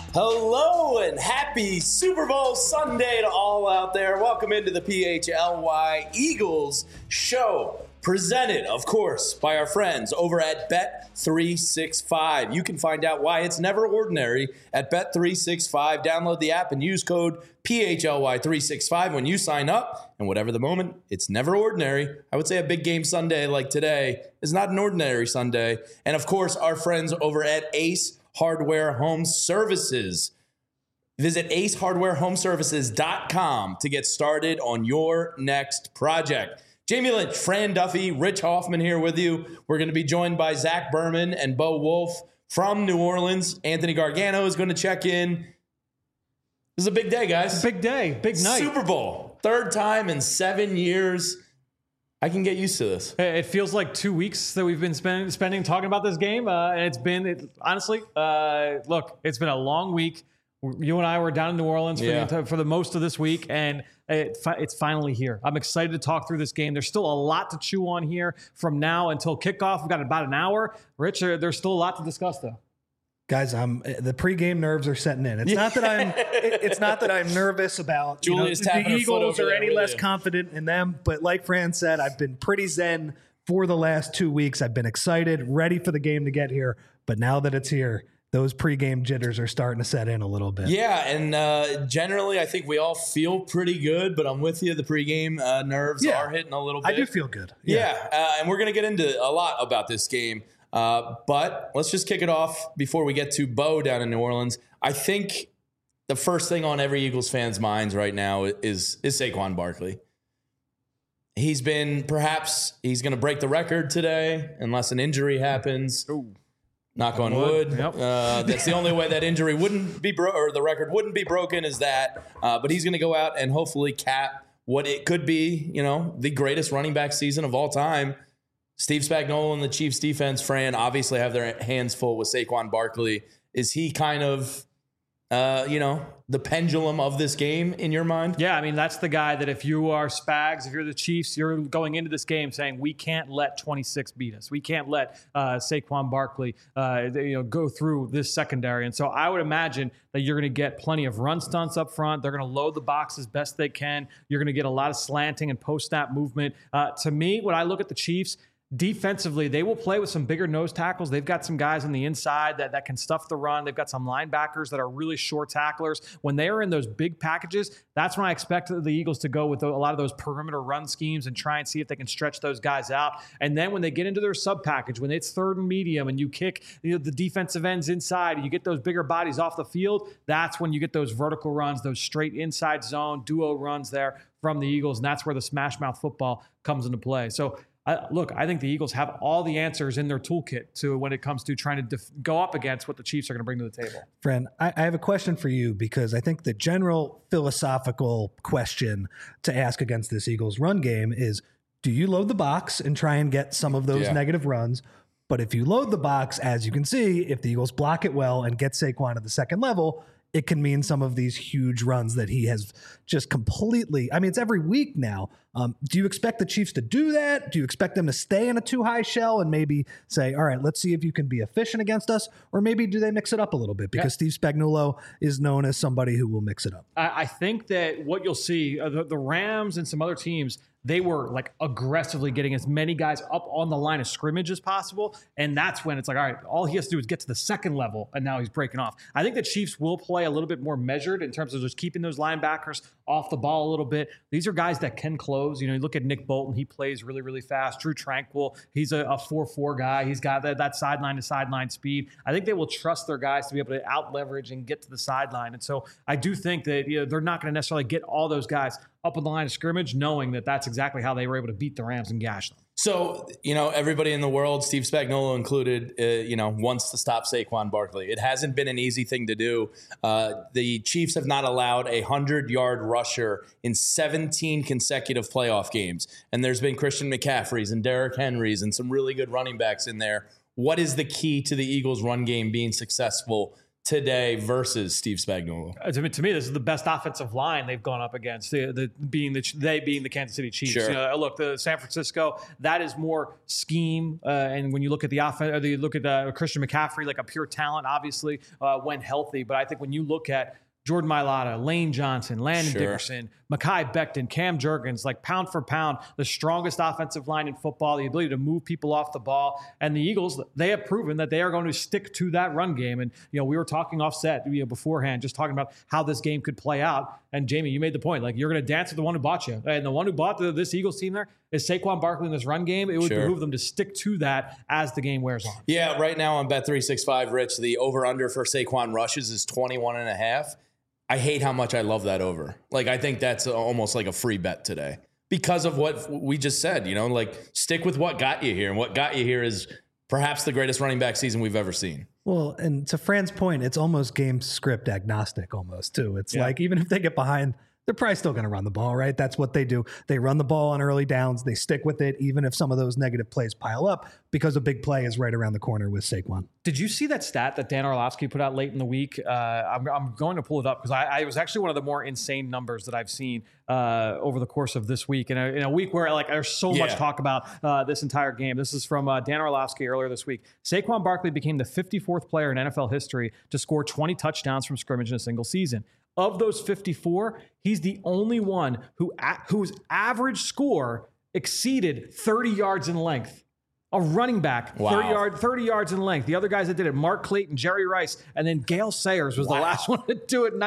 Hello and happy Super Bowl Sunday to all out there. Welcome into the PHLY Eagles show, presented, of course, by our friends over at Bet365. You can find out why it's never ordinary at Bet365. Download the app and use code PHLY365 when you sign up. And whatever the moment, it's never ordinary. I would say a big game Sunday like today is not an ordinary Sunday. And of course, our friends over at Ace Hardware Home Services. Visit acehardwarehomeservices.com to get started on your next project. Jamie Lynch, Fran Duffy, Rich Hoffman here with you. We're going to be joined by Zach Berman and Bo Wolf from New Orleans. Anthony Gargano is going to check in. This is a big day, guys. Big day, big night. Super Bowl. Third time in 7 years. I can get used to this. It feels like 2 weeks that we've been spending talking about this game. And honestly, look, it's been a long week. You and I were down in New Orleans for the most of this week, and it's finally here. I'm excited to talk through this game. There's still a lot to chew on here from now until kickoff. We've got about an hour. Rich, there's still a lot to discuss, though. Guys, the pregame nerves are setting in. It's not that I'm nervous about the Eagles or any less confident in them. But like Fran said, I've been pretty zen for the last 2 weeks. I've been excited, ready for the game to get here. But now that it's here, those pregame jitters are starting to set in a little bit. Yeah, and generally I think we all feel pretty good. But I'm with you. The pregame nerves are hitting a little bit. I do feel good. And we're going to get into a lot about this game. But let's just kick it off before we get to Bo down in New Orleans. I think the first thing on every Eagles fan's minds right now is Saquon Barkley. He's going to break the record today unless an injury happens. Ooh. Knock on wood. Yep. That's the only way that injury wouldn't be or the record wouldn't be broken is that. But he's going to go out and hopefully cap what it could be, the greatest running back season of all time. Steve Spagnuolo and the Chiefs defense, Fran, obviously have their hands full with Saquon Barkley. Is he kind of, the pendulum of this game in your mind? Yeah, I mean, that's the guy that if you are Spags, if you're the Chiefs, you're going into this game saying, we can't let 26 beat us. We can't let Saquon Barkley go through this secondary. And so I would imagine that you're going to get plenty of run stunts up front. They're going to load the box as best they can. You're going to get a lot of slanting and post-snap movement. To me, when I look at the Chiefs, defensively, they will play with some bigger nose tackles. They've got some guys on the inside that can stuff the run. They've got some linebackers that are really short tacklers. When they are in those big packages, that's when I expect the Eagles to go with a lot of those perimeter run schemes and try and see if they can stretch those guys out. And then when they get into their sub package, when it's third and medium and you kick the defensive ends inside and you get those bigger bodies off the field, that's when you get those vertical runs, those straight inside zone duo runs there from the Eagles. And that's where the smash mouth football comes into play. So I think the Eagles have all the answers in their toolkit to when it comes to trying to go up against what the Chiefs are going to bring to the table. Friend, I have a question for you because I think the general philosophical question to ask against this Eagles run game is, do you load the box and try and get some of those negative runs? But if you load the box, as you can see, if the Eagles block it well and get Saquon to the second level, it can mean some of these huge runs that he has just completely, it's every week now. Do you expect the Chiefs to do that? Do you expect them to stay in a too high shell and maybe say, all right, let's see if you can be efficient against us? Or maybe do they mix it up a little bit? Because Steve Spagnuolo is known as somebody who will mix it up. I think that what you'll see, the Rams and some other teams, they were like aggressively getting as many guys up on the line of scrimmage as possible. And that's when it's like, all right, all he has to do is get to the second level. And now he's breaking off. I think the Chiefs will play a little bit more measured in terms of just keeping those linebackers off the ball a little bit. These are guys that can close. You look at Nick Bolton. He plays really, really fast. Drew Tranquil, he's a 4-4 guy. He's got that sideline to sideline speed. I think they will trust their guys to be able to out leverage and get to the sideline. And so I do think that they're not going to necessarily get all those guys up on the line of scrimmage, knowing that that's exactly how they were able to beat the Rams and gash them. So, everybody in the world, Steve Spagnuolo included, wants to stop Saquon Barkley. It hasn't been an easy thing to do. The Chiefs have not allowed a 100-yard rusher in 17 consecutive playoff games. And there's been Christian McCaffrey's and Derrick Henry's and some really good running backs in there. What is the key to the Eagles' run game being successful today versus Steve Spagnuolo? To me, this is the best offensive line they've gone up against. Being the Kansas City Chiefs. Sure. Look, the San Francisco, that is more scheme. And when you look at the offense, or you look at Christian McCaffrey, like a pure talent, obviously when healthy. But I think when you look at Jordan Mailata, Lane Johnson, Landon Dickerson, Mekhi Becton, Cam Jurgens, like pound for pound, the strongest offensive line in football, the ability to move people off the ball. And the Eagles, they have proven that they are going to stick to that run game. And, we were talking offset beforehand, just talking about how this game could play out. And Jamie, you made the point, like you're going to dance with the one who bought you. And the one who bought this Eagles team there is Saquon Barkley in this run game. It would behoove them to stick to that as the game wears on. Yeah, right now on Bet365, Rich, the over-under for Saquon rushes is 21.5. I hate how much I love that over. Like, I think that's almost like a free bet today because of what we just said, like stick with what got you here. And what got you here is perhaps the greatest running back season we've ever seen. Well, and to Fran's point, it's almost game script agnostic almost too. It's like, even if they get behind, they're probably still going to run the ball, right? That's what they do. They run the ball on early downs. They stick with it, even if some of those negative plays pile up, because a big play is right around the corner with Saquon. Did you see that stat that Dan Orlovsky put out late in the week? I'm going to pull it up because I was actually one of the more insane numbers that I've seen over the course of this week. In a week where there's so much talk about this entire game. This is from Dan Orlovsky earlier this week. Saquon Barkley became the 54th player in NFL history to score 20 touchdowns from scrimmage in a single season. Of those 54, he's the only one whose average score exceeded 30 yards in length. A running back, 30 yards in length. The other guys that did it, Mark Clayton, Jerry Rice, and then Gale Sayers was the last one to do it in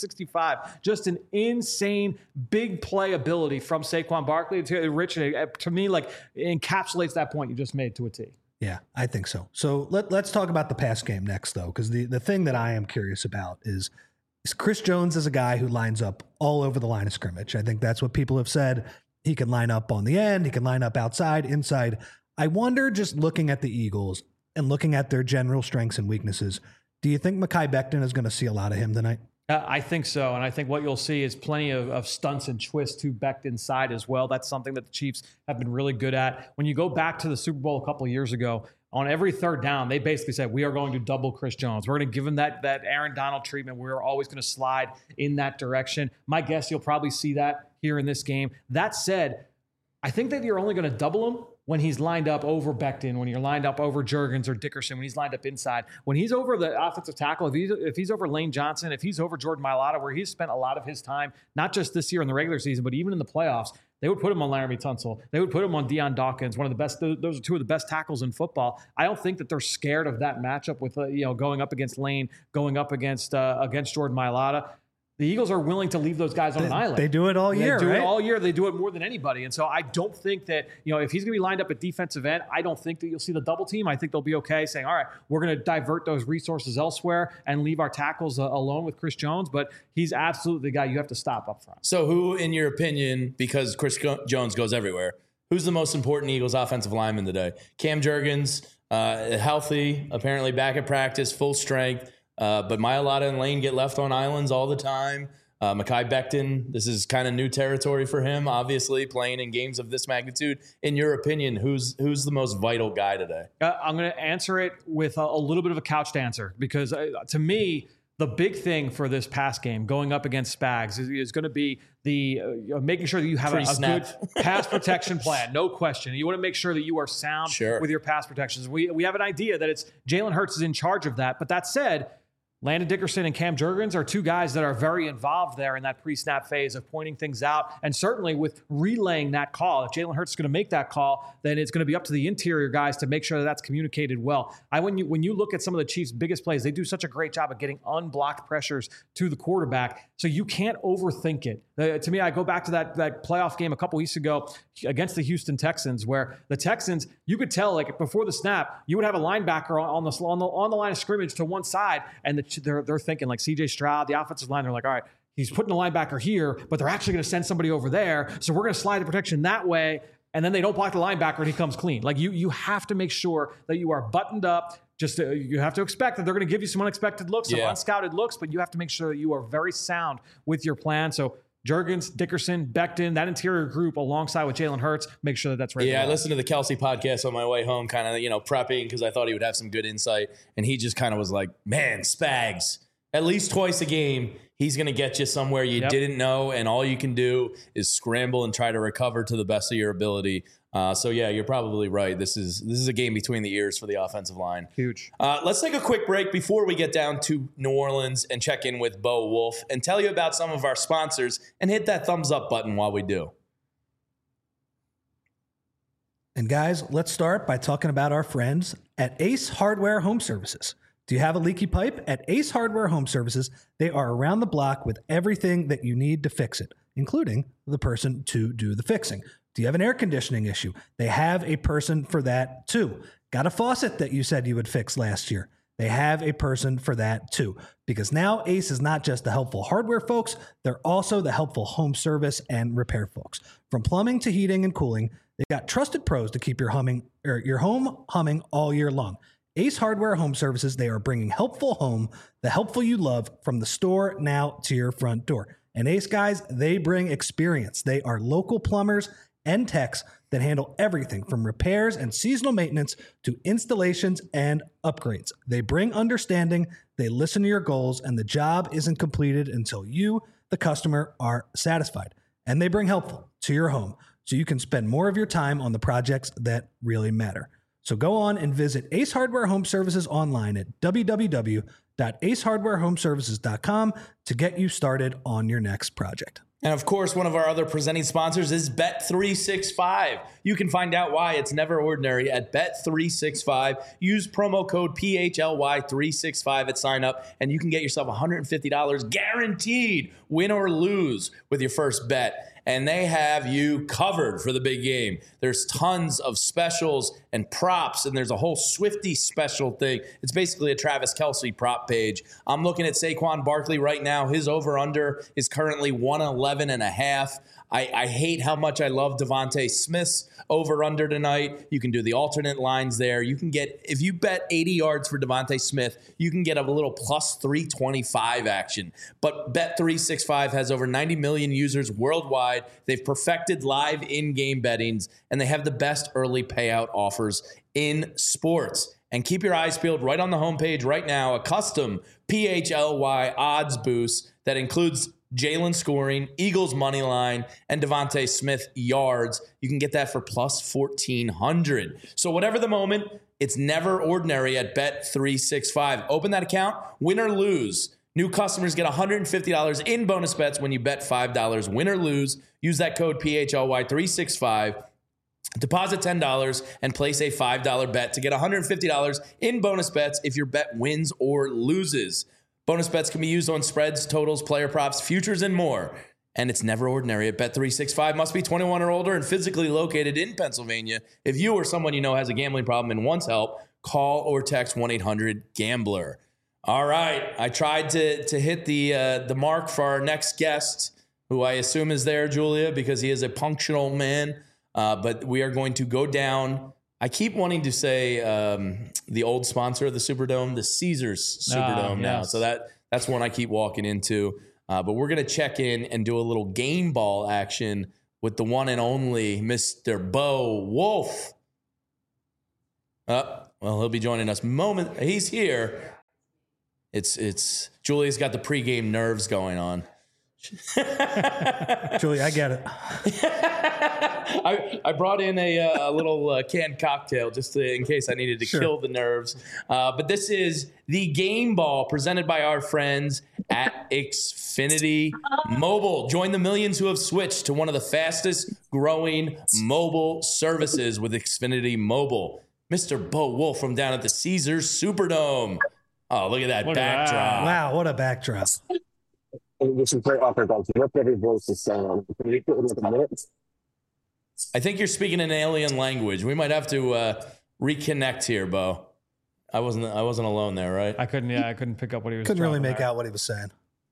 1965. Just an insane big play ability from Saquon Barkley. Rich, to me, encapsulates that point you just made to a T. Yeah, I think so. So let's talk about the pass game next, though, because the thing that I am curious about is Chris Jones is a guy who lines up all over the line of scrimmage. I think that's what people have said. He can line up on the end. He can line up outside, inside. I wonder, just looking at the Eagles and looking at their general strengths and weaknesses, do you think Mekhi Becton is going to see a lot of him tonight? I think so. And I think what you'll see is plenty of stunts and twists to Becton's side as well. That's something that the Chiefs have been really good at. When you go back to the Super Bowl a couple of years ago, on every third down, they basically said, we are going to double Chris Jones. We're going to give him that Aaron Donald treatment. We're always going to slide in that direction. My guess, you'll probably see that here in this game. That said, I think that you're only going to double him when he's lined up over Becton, when you're lined up over Jurgens or Dickerson, when he's lined up inside. When he's over the offensive tackle, if he's over Lane Johnson, if he's over Jordan Mailata, where he's spent a lot of his time, not just this year in the regular season, but even in the playoffs, they would put him on Laramie Tunsil. They would put him on Deion Dawkins, one of the best. Those are two of the best tackles in football. I don't think that they're scared of that matchup with going up against Lane, going up against Jordan Mailata. The Eagles are willing to leave those guys on an island. They do it all year, They do right? it all year. They do it more than anybody. And so I don't think that, if he's going to be lined up at defensive end, I don't think that you'll see the double team. I think they'll be okay saying, all right, we're going to divert those resources elsewhere and leave our tackles alone with Chris Jones. But he's absolutely the guy you have to stop up front. So who, in your opinion, because Chris Jones goes everywhere, who's the most important Eagles offensive lineman today? Cam Jurgens, healthy, apparently back at practice, full strength. But Mailata and Lane get left on islands all the time. Mekhi Becton, this is kind of new territory for him, obviously, playing in games of this magnitude. In your opinion, who's the most vital guy today? I'm going to answer it with a little bit of a couched answer because to me, the big thing for this pass game going up against Spags is going to be the making sure that you have a good pass protection plan. No question. You want to make sure that you are sound with your pass protections. We have an idea that it's Jalen Hurts is in charge of that. But that said, Landon Dickerson and Cam Jurgens are two guys that are very involved there in that pre-snap phase of pointing things out. And certainly with relaying that call, if Jalen Hurts is going to make that call, then it's going to be up to the interior guys to make sure that that's communicated well. When you look at some of the Chiefs' biggest plays, they do such a great job of getting unblocked pressures to the quarterback. So you can't overthink it. To me, I go back to that playoff game a couple weeks ago against the Houston Texans, where the Texans, you could tell, like before the snap, you would have a linebacker on the line of scrimmage to one side, and they're thinking like C.J. Stroud, the offensive line. They're like, all right, he's putting the linebacker here, but they're actually going to send somebody over there, so we're going to slide the protection that way. And then they don't block the linebacker, and he comes clean. Like you have to make sure that you are buttoned up. You have to expect that they're going to give you some unexpected looks, some unscouted looks, but you have to make sure that you are very sound with your plan. So Jurgens, Dickerson, Becton, that interior group alongside with Jalen Hurts, make sure that that's ready. Yeah, I listened to the Kelsey podcast on my way home, kind of, prepping because I thought he would have some good insight. And he just kind of was like, man, Spags, at least twice a game, he's going to get you somewhere you didn't know. And all you can do is scramble and try to recover to the best of your ability. So yeah, you're probably right. This is a game between the ears for the offensive line. Huge. Let's take a quick break before we get down to New Orleans and check in with Bo Wolf and tell you about some of our sponsors and hit that thumbs up button while we do. And guys, let's start by talking about our friends at Ace Hardware Home Services. Do you have a leaky pipe? At Ace Hardware Home Services, they are around the block with everything that you need to fix it, including the person to do the fixing. Do you have an air conditioning issue? They have a person for that too. Got a faucet that you said you would fix last year? They have a person for that too. Because now Ace is not just the helpful hardware folks, they're also the helpful home service and repair folks. From plumbing to heating and cooling, they've got trusted pros to keep your home humming all year long. Ace Hardware Home Services, they are bringing helpful home, the helpful you love, from the store now to your front door. And Ace guys, they bring experience. They are local plumbers and techs that handle everything from repairs and seasonal maintenance to installations and upgrades. They bring understanding, they listen to your goals, and the job isn't completed until you, the customer, are satisfied. And they bring helpful to your home so you can spend more of your time on the projects that really matter. So go on and visit Ace Hardware Home Services online at www.acehardwarehomeservices.com to get you started on your next project. And of course, one of our other presenting sponsors is Bet365. You can find out why it's never ordinary at Bet365. Use promo code PHLY365 at sign up, and you can get yourself $150 guaranteed, win or lose, with your first bet. And they have you covered for the big game. There's tons of specials and props, and there's a whole Swifty special thing. It's basically a Travis Kelce prop page. I'm looking at Saquon Barkley right now. His over-under is currently 111.5. I hate how much I love Devontae Smith's over-under tonight. You can do the alternate lines there. You can get, if you bet 80 yards for Devontae Smith, you can get a little plus 325 action. But Bet365 has over 90 million users worldwide. They've perfected live in-game bettings, and they have the best early payout offers in sports. And keep your eyes peeled right on the homepage right now, a custom PHLY odds boost that includes Jalen scoring, Eagles money line, and Devontae Smith yards. You can get that for plus 1,400. So whatever the moment, it's never ordinary at Bet365. Open that account, win or lose. New customers get $150 in bonus bets when you bet $5. Win or lose. Use that code PHLY365. Deposit $10 and place a $5 bet to get $150 in bonus bets if your bet wins or loses. Bonus bets can be used on spreads, totals, player props, futures, and more. And it's never ordinary at Bet365. Must be 21 or older and physically located in Pennsylvania. If you or someone you know has a gambling problem and wants help, call or text 1-800-GAMBLER. All right. I tried to hit the mark for our next guest, who I assume is there, Julia, because he is a punctual man. But we are going to go down. I keep wanting to say the old sponsor of the Superdome, the Caesars Superdome now. So that's one I keep walking into. But we're going to check in and do a little game ball action with the one and only Mr. Bo Wolf. Well, he'll be joining us moment. He's here. It's Julia's got the pregame nerves going on. Julie, I get it. I brought in a little canned cocktail just in case I needed to kill the nerves. But this is the game ball presented by our friends at Xfinity Mobile. Join the millions who have switched to one of the fastest growing mobile services with Xfinity Mobile. Mr. Bo Wolf from down at the Caesars Superdome. Oh, look at that backdrop. Wow, what a backdrop. This is great offer, guys. What every voice is saying. Can you put it in a minute? I think you're speaking an alien language. We might have to reconnect here, Bo. I wasn't alone there, right? I couldn't pick up what he was. Couldn't really make out what he was saying.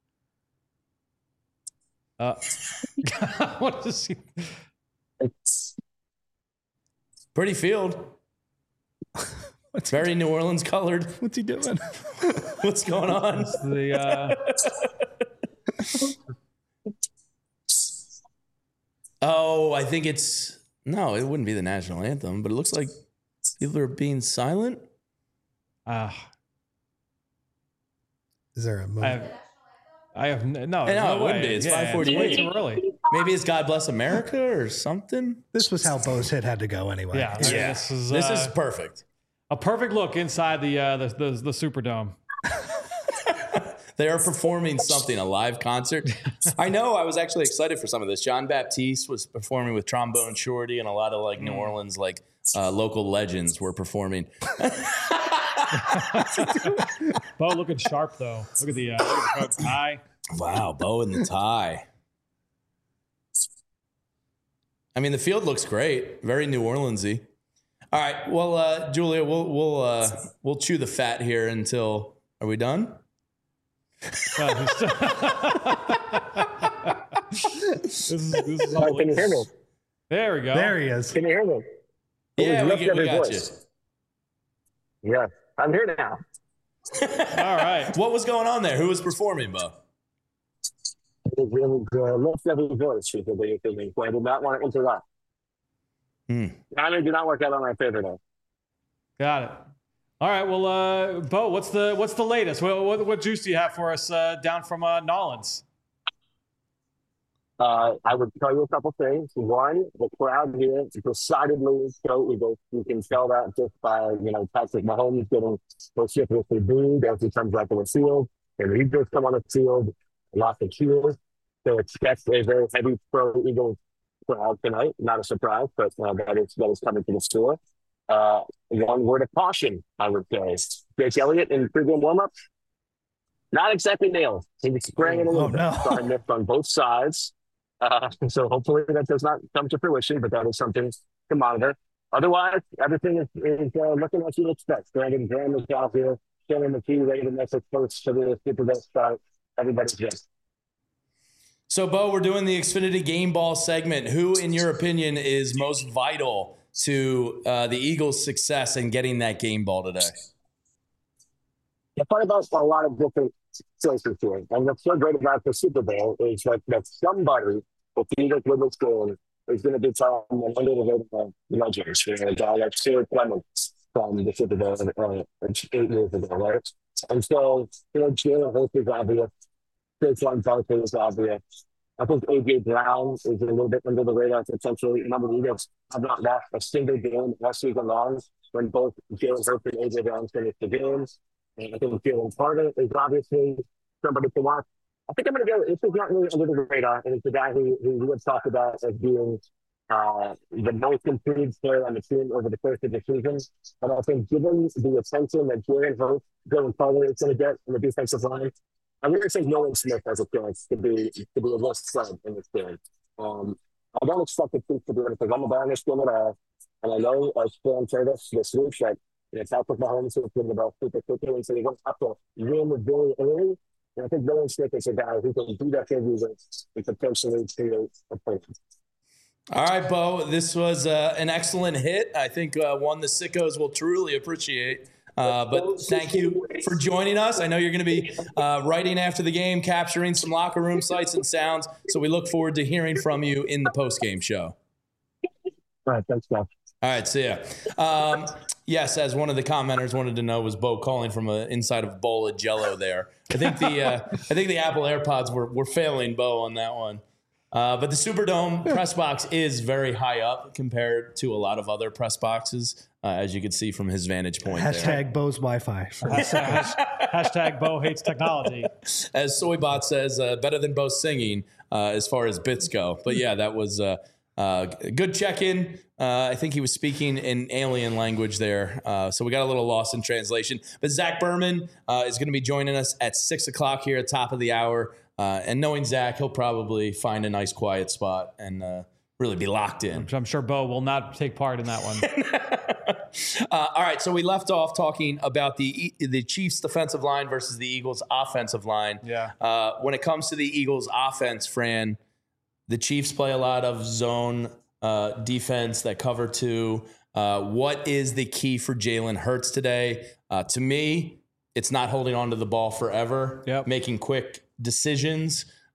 What is he? It's pretty field. It's very New Orleans colored. What's he doing? What's going on? Oh, I think no, it wouldn't be the national anthem, but it looks like people are being silent. Is there a moment? I have no it wouldn't way. be. It's Yeah, 5:48. it's way too early. Maybe it's God Bless America or something. This was how Bo's hit had to go anyway. Yeah, This is perfect. A perfect look inside the Superdome. They are performing something, a live concert. I know. I was actually excited for some of this. John Baptiste was performing with Trombone Shorty, and a lot of like New Orleans local legends were performing. Bo looking sharp though. Look at the tie. Wow, Bo in the tie. I mean, the field looks great. Very New Orleans-y. All right. Well, Julia, we'll chew the fat here until. Are we done? This is Can you hear me? There we go. There he is. Can you hear me? Yeah, we got you. Yeah, I'm here now. All right. What was going on there? Who was performing, Bo? It was Lift Every Voice. So I did not want to interrupt. Timing did not work out on my favor though. Got it. All right. Well, Bo, what's the latest? What juice do you have for us down from Nolans? I would tell you a couple things. One, the crowd here decidedly so you can tell that just by Patrick Mahomes getting vociferously booed as he comes back on the field, and the Eagles come on the field, lots of cheers. So expect a very heavy pro Eagles crowd tonight. Not a surprise, but that is coming to the store. One word of caution, I would say. Jake Elliott in pregame warmup, not exactly nailed. He was spraying it a little bit. So I missed on both sides. So hopefully that does not come to fruition, but that is something to monitor. Otherwise, everything is looking like you'd expect. Brandon Graham is out here, Shannon McKee ready to make it close to the Super Bowl start. Everybody's good. So, Bo, we're doing the Xfinity Game Ball segment. Who, in your opinion, is most vital to the Eagles' success in getting that game ball today? I thought about a lot of different choices here. And what's so great about the Super Bowl is that somebody, if the Eagles win this game, is going to be telling them under the legends. A guy like Stuart Clements from the Super Bowl 8 years ago, right? And so, Jalen Hurts is obvious. Saquon Barkley is obvious. I think A.J. Brown is a little bit under the radar potentially. Remember, the Eagles have not lost a single game all season long when both Jalen Hurts and A.J. Brown finished the games. And I think Jalen Carter is obviously somebody to watch. I think I'm going to go. This is not really under the radar, and it's a guy who we would talk about as being the most improved player on the team over the course of the season. But I think given the attention that Jalen Hurts, Jalen Carter is going to get in the defensive line, I really think Nolan Smith has a chance to be a less spread in this game. I don't expect the Chiefs to do anything on the Bengals game at all. And I know, as Stan told us this week, that Patrick Mahomes is getting the ball super quickly, and so you won't have to win very early. And I think Nolan Smith is a guy who can do that every week and potentially create a point. All right, Bo, this was an excellent hit. I think one the sickos will truly appreciate. But thank you for joining us. I know you're going to be writing after the game, capturing some locker room sights and sounds. So we look forward to hearing from you in the post-game show. All right, thanks, Bob. All right, see ya. Yes, as one of the commenters wanted to know, was Bo calling from inside of a bowl of Jell-O there. I think the Apple AirPods were failing Bo on that one. But the Superdome press box is very high up compared to a lot of other press boxes, as you can see from his vantage point. Hashtag Bo's Wi-Fi. Hashtag Bo hates technology. As Soybot says, better than Bo singing as far as bits go. But yeah, that was a good check-in. I think he was speaking in alien language there. So we got a little lost in translation. But Zach Berman is going to be joining us at 6 o'clock here at top of the hour. And knowing Zach, he'll probably find a nice quiet spot and really be locked in. I'm sure Bo will not take part in that one. All right, so we left off talking about the Chiefs' defensive line versus the Eagles' offensive line. Yeah. When it comes to the Eagles' offense, Fran, the Chiefs play a lot of zone defense that cover two. What is the key for Jalen Hurts today? To me, it's not holding on to the ball forever, Yep. making quick decisions.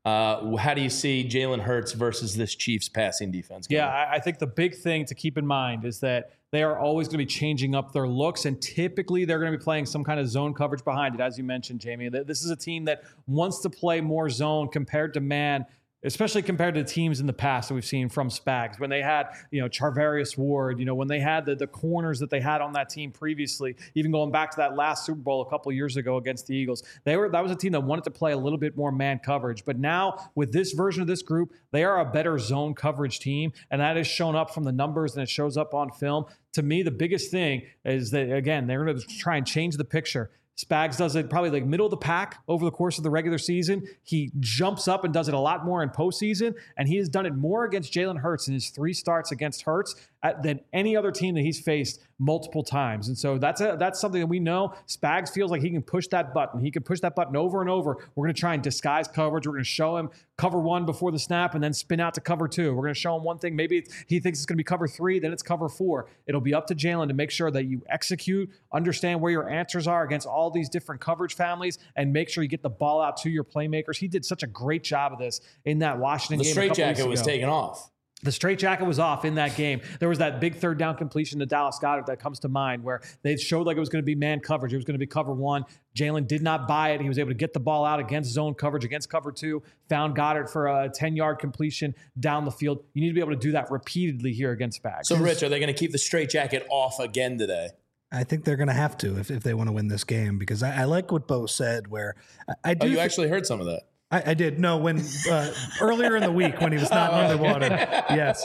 How do you see Jalen Hurts versus this Chiefs passing defense going? Yeah, I think the big thing to keep in mind is that they are always going to be changing up their looks, and typically they're going to be playing some kind of zone coverage behind it, as you mentioned, Jamie. This is a team that wants to play more zone compared to man, especially compared to teams in the past that we've seen from Spags. When they had, Charvarius Ward, when they had the corners that they had on that team previously, even going back to that last Super Bowl a couple of years ago against the Eagles, that was a team that wanted to play a little bit more man coverage. But now with this version of this group, they are a better zone coverage team, and that has shown up from the numbers and it shows up on film. To me, the biggest thing is that, again, they're going to try and change the picture. Spags does it probably like middle of the pack over the course of the regular season. He jumps up and does it a lot more in postseason, and he has done it more against Jalen Hurts in his 3 starts against Hurts than any other team that he's faced multiple times. And so that's something that we know. Spags feels like he can push that button. He can push that button over and over. We're going to try and disguise coverage. We're going to show him cover 1 before the snap and then spin out to cover 2. We're going to show him one thing. Maybe he thinks it's going to be cover 3, then it's cover 4. It'll be up to Jalen to make sure that you execute, understand where your answers are against all these different coverage families, and make sure you get the ball out to your playmakers. He did such a great job of this in that Washington game. The straitjacket was taken off. The straitjacket was off in that game. There was that big 3rd down completion to Dallas Goedert that comes to mind where they showed like it was going to be man coverage. It was going to be cover 1. Jalen did not buy it. He was able to get the ball out against zone coverage, against cover 2, found Goddard for a 10-yard completion down the field. You need to be able to do that repeatedly here against Spags. So, Rich, are they going to keep the straitjacket off again today? I think they're going to have to if they want to win this game, because I like what Bo said where I do. Oh, you actually heard some of that. I did. No, when earlier in the week when he was not underwater. Yes.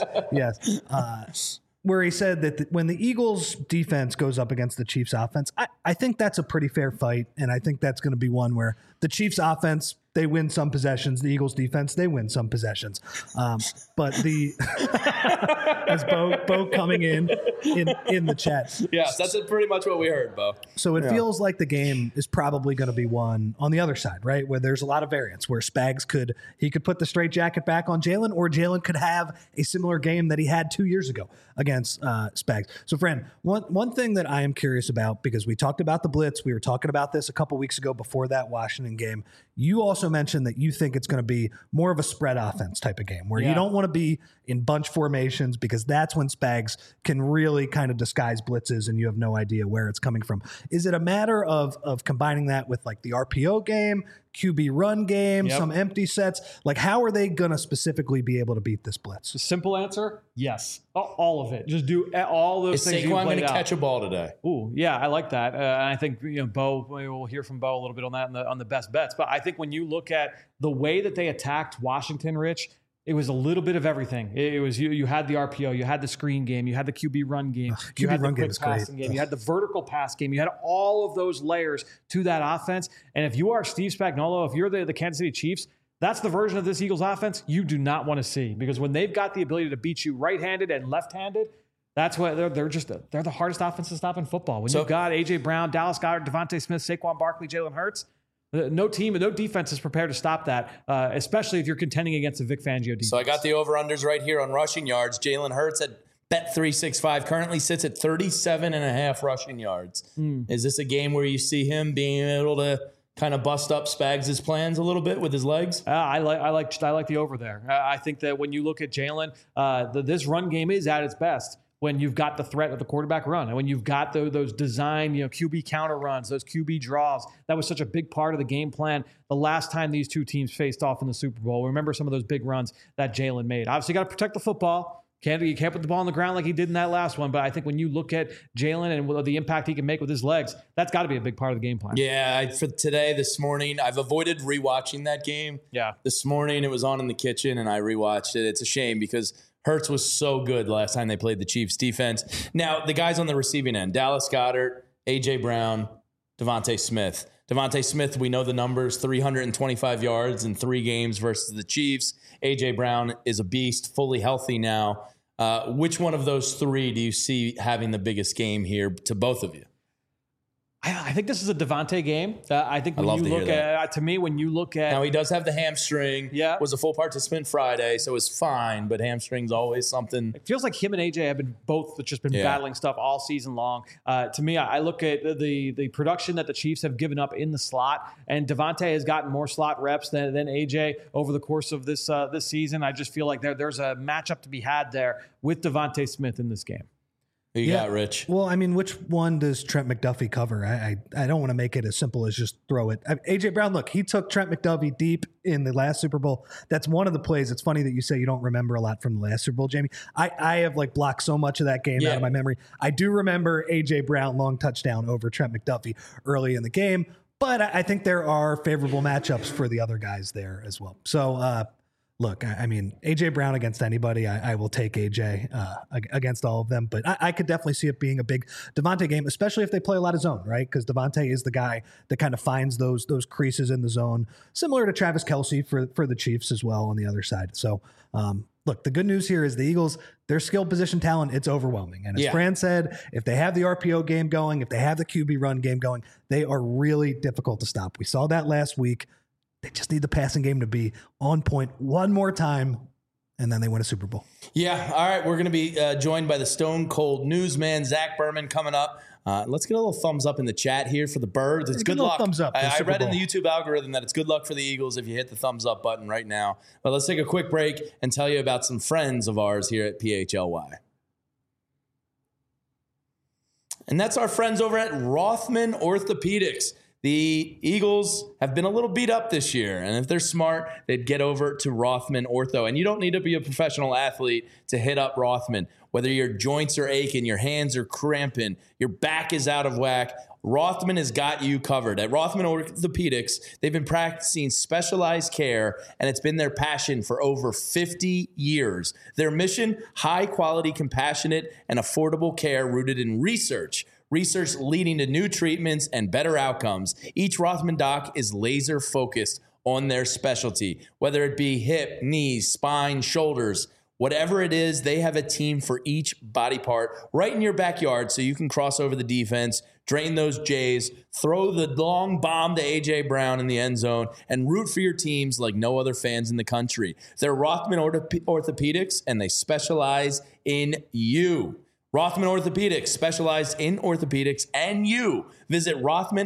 Where he said that when the Eagles defense goes up against the Chiefs offense, I think that's a pretty fair fight. And I think that's going to be one where the Chiefs offense, they win some possessions. The Eagles defense, they win some possessions. But as Bo coming in the chat. Yes, that's pretty much what we heard, Bo. So it feels like the game is probably going to be won on the other side, right? Where there's a lot of variance, where Spags could put the straitjacket back on Jalen, or Jalen could have a similar game that he had 2 years ago against Spags. So, Fran, one thing that I am curious about, because we talked about the blitz, we were talking about this a couple weeks ago before that Washington game. You also mentioned that you think it's going to be more of a spread offense type of game where you don't want to be in bunch formations, because that's when Spags can really kind of disguise blitzes and you have no idea where it's coming from. Is it a matter of combining that with like the RPO game, QB run game, some empty sets? Like, how are they going to specifically be able to beat this blitz? The simple answer, yes. All of it. Just do all those things. Is Saquon going to catch a ball today? Ooh, yeah, I like that. I think Bo. We'll hear from Bo a little bit on that on the best bets. But I think when you look at the way that they attacked Washington, Rich, it was a little bit of everything. It was you had the RPO, you had the screen game, you had the QB run game, you had the quick passing game, you had the vertical pass game, you had all of those layers to that offense. And if you are Steve Spagnuolo, if you're the Kansas City Chiefs, that's the version of this Eagles offense you do not want to see, because when they've got the ability to beat you right-handed and left-handed, that's what they're the hardest offense to stop in football. When you've got A.J. Brown, Dallas Goedert, Devontae Smith, Saquon Barkley, Jalen Hurts, no team and no defense is prepared to stop that, especially if you're contending against a Vic Fangio defense. So I got the over-unders right here on rushing yards. Jalen Hurts at Bet365 currently sits at 37.5 rushing yards. Is this a game where you see him being able to kind of bust up Spags' plans a little bit with his legs? I like the over there. I think that when you look at Jalen, this run game is at its best when you've got the threat of the quarterback run, and when you've got those design, QB counter runs, those QB draws. That was such a big part of the game plan the last time these two teams faced off in the Super Bowl. Remember some of those big runs that Jalen made. Obviously, you got to protect the football. You can't put the ball on the ground like he did in that last one. But I think when you look at Jalen and the impact he can make with his legs, that's got to be a big part of the game plan. Yeah, for this morning, I've avoided rewatching that game. Yeah. This morning it was on in the kitchen and I rewatched it. It's a shame because Hurts was so good last time they played the Chiefs defense. Now, the guys on the receiving end, Dallas Goedert, A.J. Brown, Devontae Smith. Devontae Smith, we know the numbers, 325 yards in 3 games versus the Chiefs. A.J. Brown is a beast, fully healthy now. Which one of those 3 do you see having the biggest game here to both of you? I think this is a Devontae game. I think when you look at, to me, when you look at. Now, he does have the hamstring. Yeah. Was a full participant Friday, so it's fine, but hamstring's always something. It feels like him and AJ have been battling stuff all season long. To me, I look at the production that the Chiefs have given up in the slot, and Devontae has gotten more slot reps than AJ over the course of this season. I just feel like there's a matchup to be had there with Devontae Smith in this game. Who you got, Rich? Well, I mean, which one does Trent McDuffie cover? I don't want to make it as simple as just throw it. A.J. Brown, look, he took Trent McDuffie deep in the last Super Bowl. That's one of the plays. It's funny that you say you don't remember a lot from the last Super Bowl, Jamie. I have blocked so much of that game out of my memory. I do remember A.J. Brown long touchdown over Trent McDuffie early in the game, but I think there are favorable matchups for the other guys there as well. So, look, I mean, A.J. Brown against anybody, I will take A.J. Against all of them. But I could definitely see it being a big Devontae game, especially if they play a lot of zone, right? Because Devontae is the guy that kind of finds those creases in the zone, similar to Travis Kelce for the Chiefs as well on the other side. So, look, the good news here is the Eagles, their skill position talent, it's overwhelming. And as Fran said, if they have the RPO game going, if they have the QB run game going, they are really difficult to stop. We saw that last week. They just need the passing game to be on point one more time, and then they win a Super Bowl. Yeah. All right. We're going to be joined by the Stone Cold newsman, Zach Berman, coming up. Let's get a little thumbs up in the chat here for the Birds. It's good luck. Thumbs up. I read in the YouTube algorithm that it's good luck for the Eagles if you hit the thumbs up button right now. But let's take a quick break and tell you about some friends of ours here at PHLY. And that's our friends over at Rothman Orthopedics. The Eagles have been a little beat up this year, and if they're smart, they'd get over to Rothman Ortho. And you don't need to be a professional athlete to hit up Rothman. Whether your joints are aching, your hands are cramping, your back is out of whack, Rothman has got you covered. At Rothman Orthopedics, they've been practicing specialized care, and it's been their passion for over 50 years. Their mission, high-quality, compassionate, and affordable care rooted in research leading to new treatments and better outcomes. Each Rothman doc is laser focused on their specialty, whether it be hip, knees, spine, shoulders, whatever it is, they have a team for each body part right in your backyard so you can cross over the defense, drain those Jays, throw the long bomb to A.J. Brown in the end zone, and root for your teams like no other fans in the country. They're Rothman Orthopedics, and they specialize in you. Rothman Orthopedics, specialized in orthopedics and you. Visit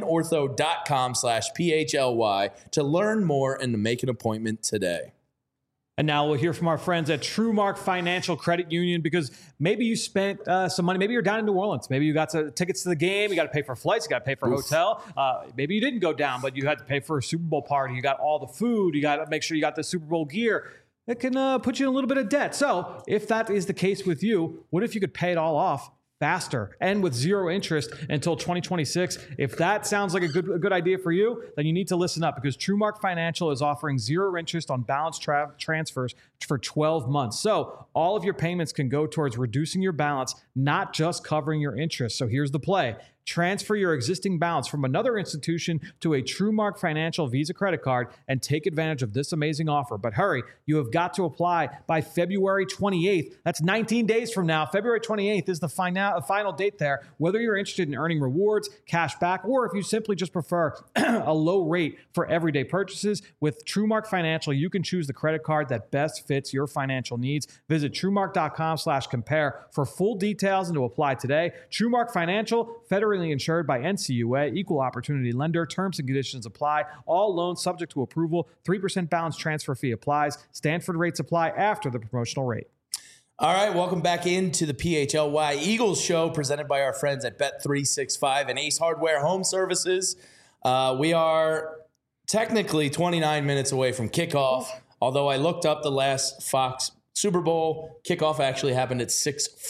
rothmanortho.com/PHLY to learn more and to make an appointment today. And now we'll hear from our friends at TrueMark Financial Credit Union, because maybe you spent some money. Maybe you're down in New Orleans. Maybe you got tickets to the game. You got to pay for flights. You got to pay for a hotel. Maybe you didn't go down, but you had to pay for a Super Bowl party. You got all the food. You got to make sure you got the Super Bowl gear. It can put you in a little bit of debt. So if that is the case with you, what if you could pay it all off faster and with zero interest until 2026? If that sounds like a good idea for you, then you need to listen up, because TrueMark Financial is offering zero interest on balance transfers for 12 months. So all of your payments can go towards reducing your balance, not just covering your interest. So here's the play. Transfer your existing balance from another institution to a TrueMark Financial Visa credit card and take advantage of this amazing offer. But hurry, you have got to apply by February 28th. That's 19 days from now. February 28th is the final date there. Whether you're interested in earning rewards, cash back, or if you simply just prefer a low rate for everyday purchases, with TrueMark Financial, you can choose the credit card that best fits your financial needs. Visit TrueMark.com/compare for full details and to apply today. TrueMark Financial, federally insured by NCUA, equal opportunity lender. Terms and conditions apply. All loans subject to approval. 3% balance transfer fee applies. Stanford rates apply after the promotional rate. All right, welcome back into the PHLY Eagles show, presented by our friends at Bet365 and Ace Hardware Home Services. We are technically 29 minutes away from kickoff, although I looked up the last Fox Super Bowl. Kickoff actually happened at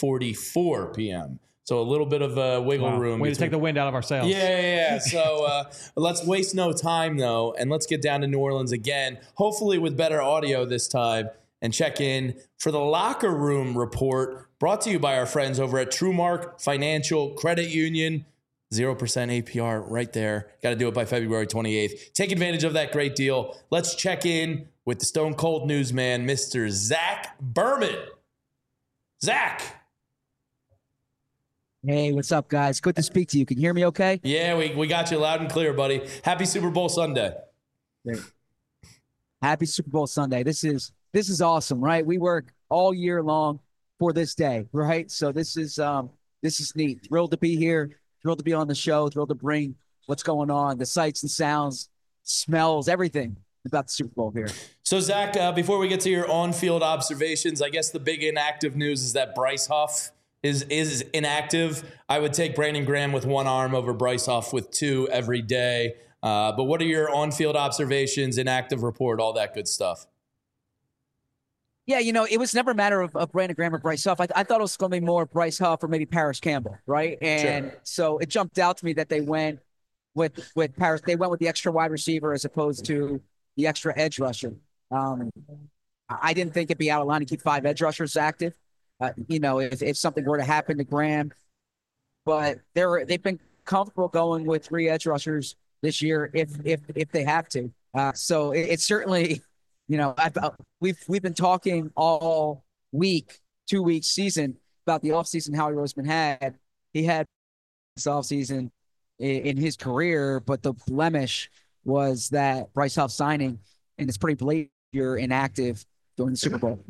6:44 p.m., so a little bit of wiggle room. Way to take the wind out of our sails. Yeah. So let's waste no time, though, and let's get down to New Orleans again, hopefully with better audio this time, and check in for the Locker Room Report, brought to you by our friends over at TrueMark Financial Credit Union. 0% APR right there. Got to do it by February 28th. Take advantage of that great deal. Let's check in with the Stone Cold newsman, Mr. Zach Berman. Zach. Hey, what's up, guys? Good to speak to you. Can you hear me okay? Yeah, we got you loud and clear, buddy. Happy Super Bowl Sunday. Great. Happy Super Bowl Sunday. This is awesome, right? We work all year long for this day, right? So this is neat. Thrilled to be here. Thrilled to be on the show. Thrilled to bring what's going on, the sights and sounds, smells, everything about the Super Bowl here. So, Zach, before we get to your on-field observations, I guess the big inactive news is that Bryce Huff is inactive. I would take Brandon Graham with one arm over Bryce Huff with two every day. But what are your on-field observations, inactive report, all that good stuff? Yeah, it was never a matter of Brandon Graham or Bryce Huff. I thought it was going to be more Bryce Huff or maybe Paris Campbell, right? And So it jumped out to me that they went with Paris. They went with the extra wide receiver as opposed to the extra edge rusher. I didn't think it'd be out of line to keep 5 edge rushers active. If something were to happen to Graham, but they've been comfortable going with 3 edge rushers this year if they have to. So it's certainly, we've been talking all week, 2 weeks season about the offseason Howie Roseman had. He had this offseason in his career, but the blemish was that Bryce Huff signing, and it's pretty blatant you're inactive during the Super Bowl.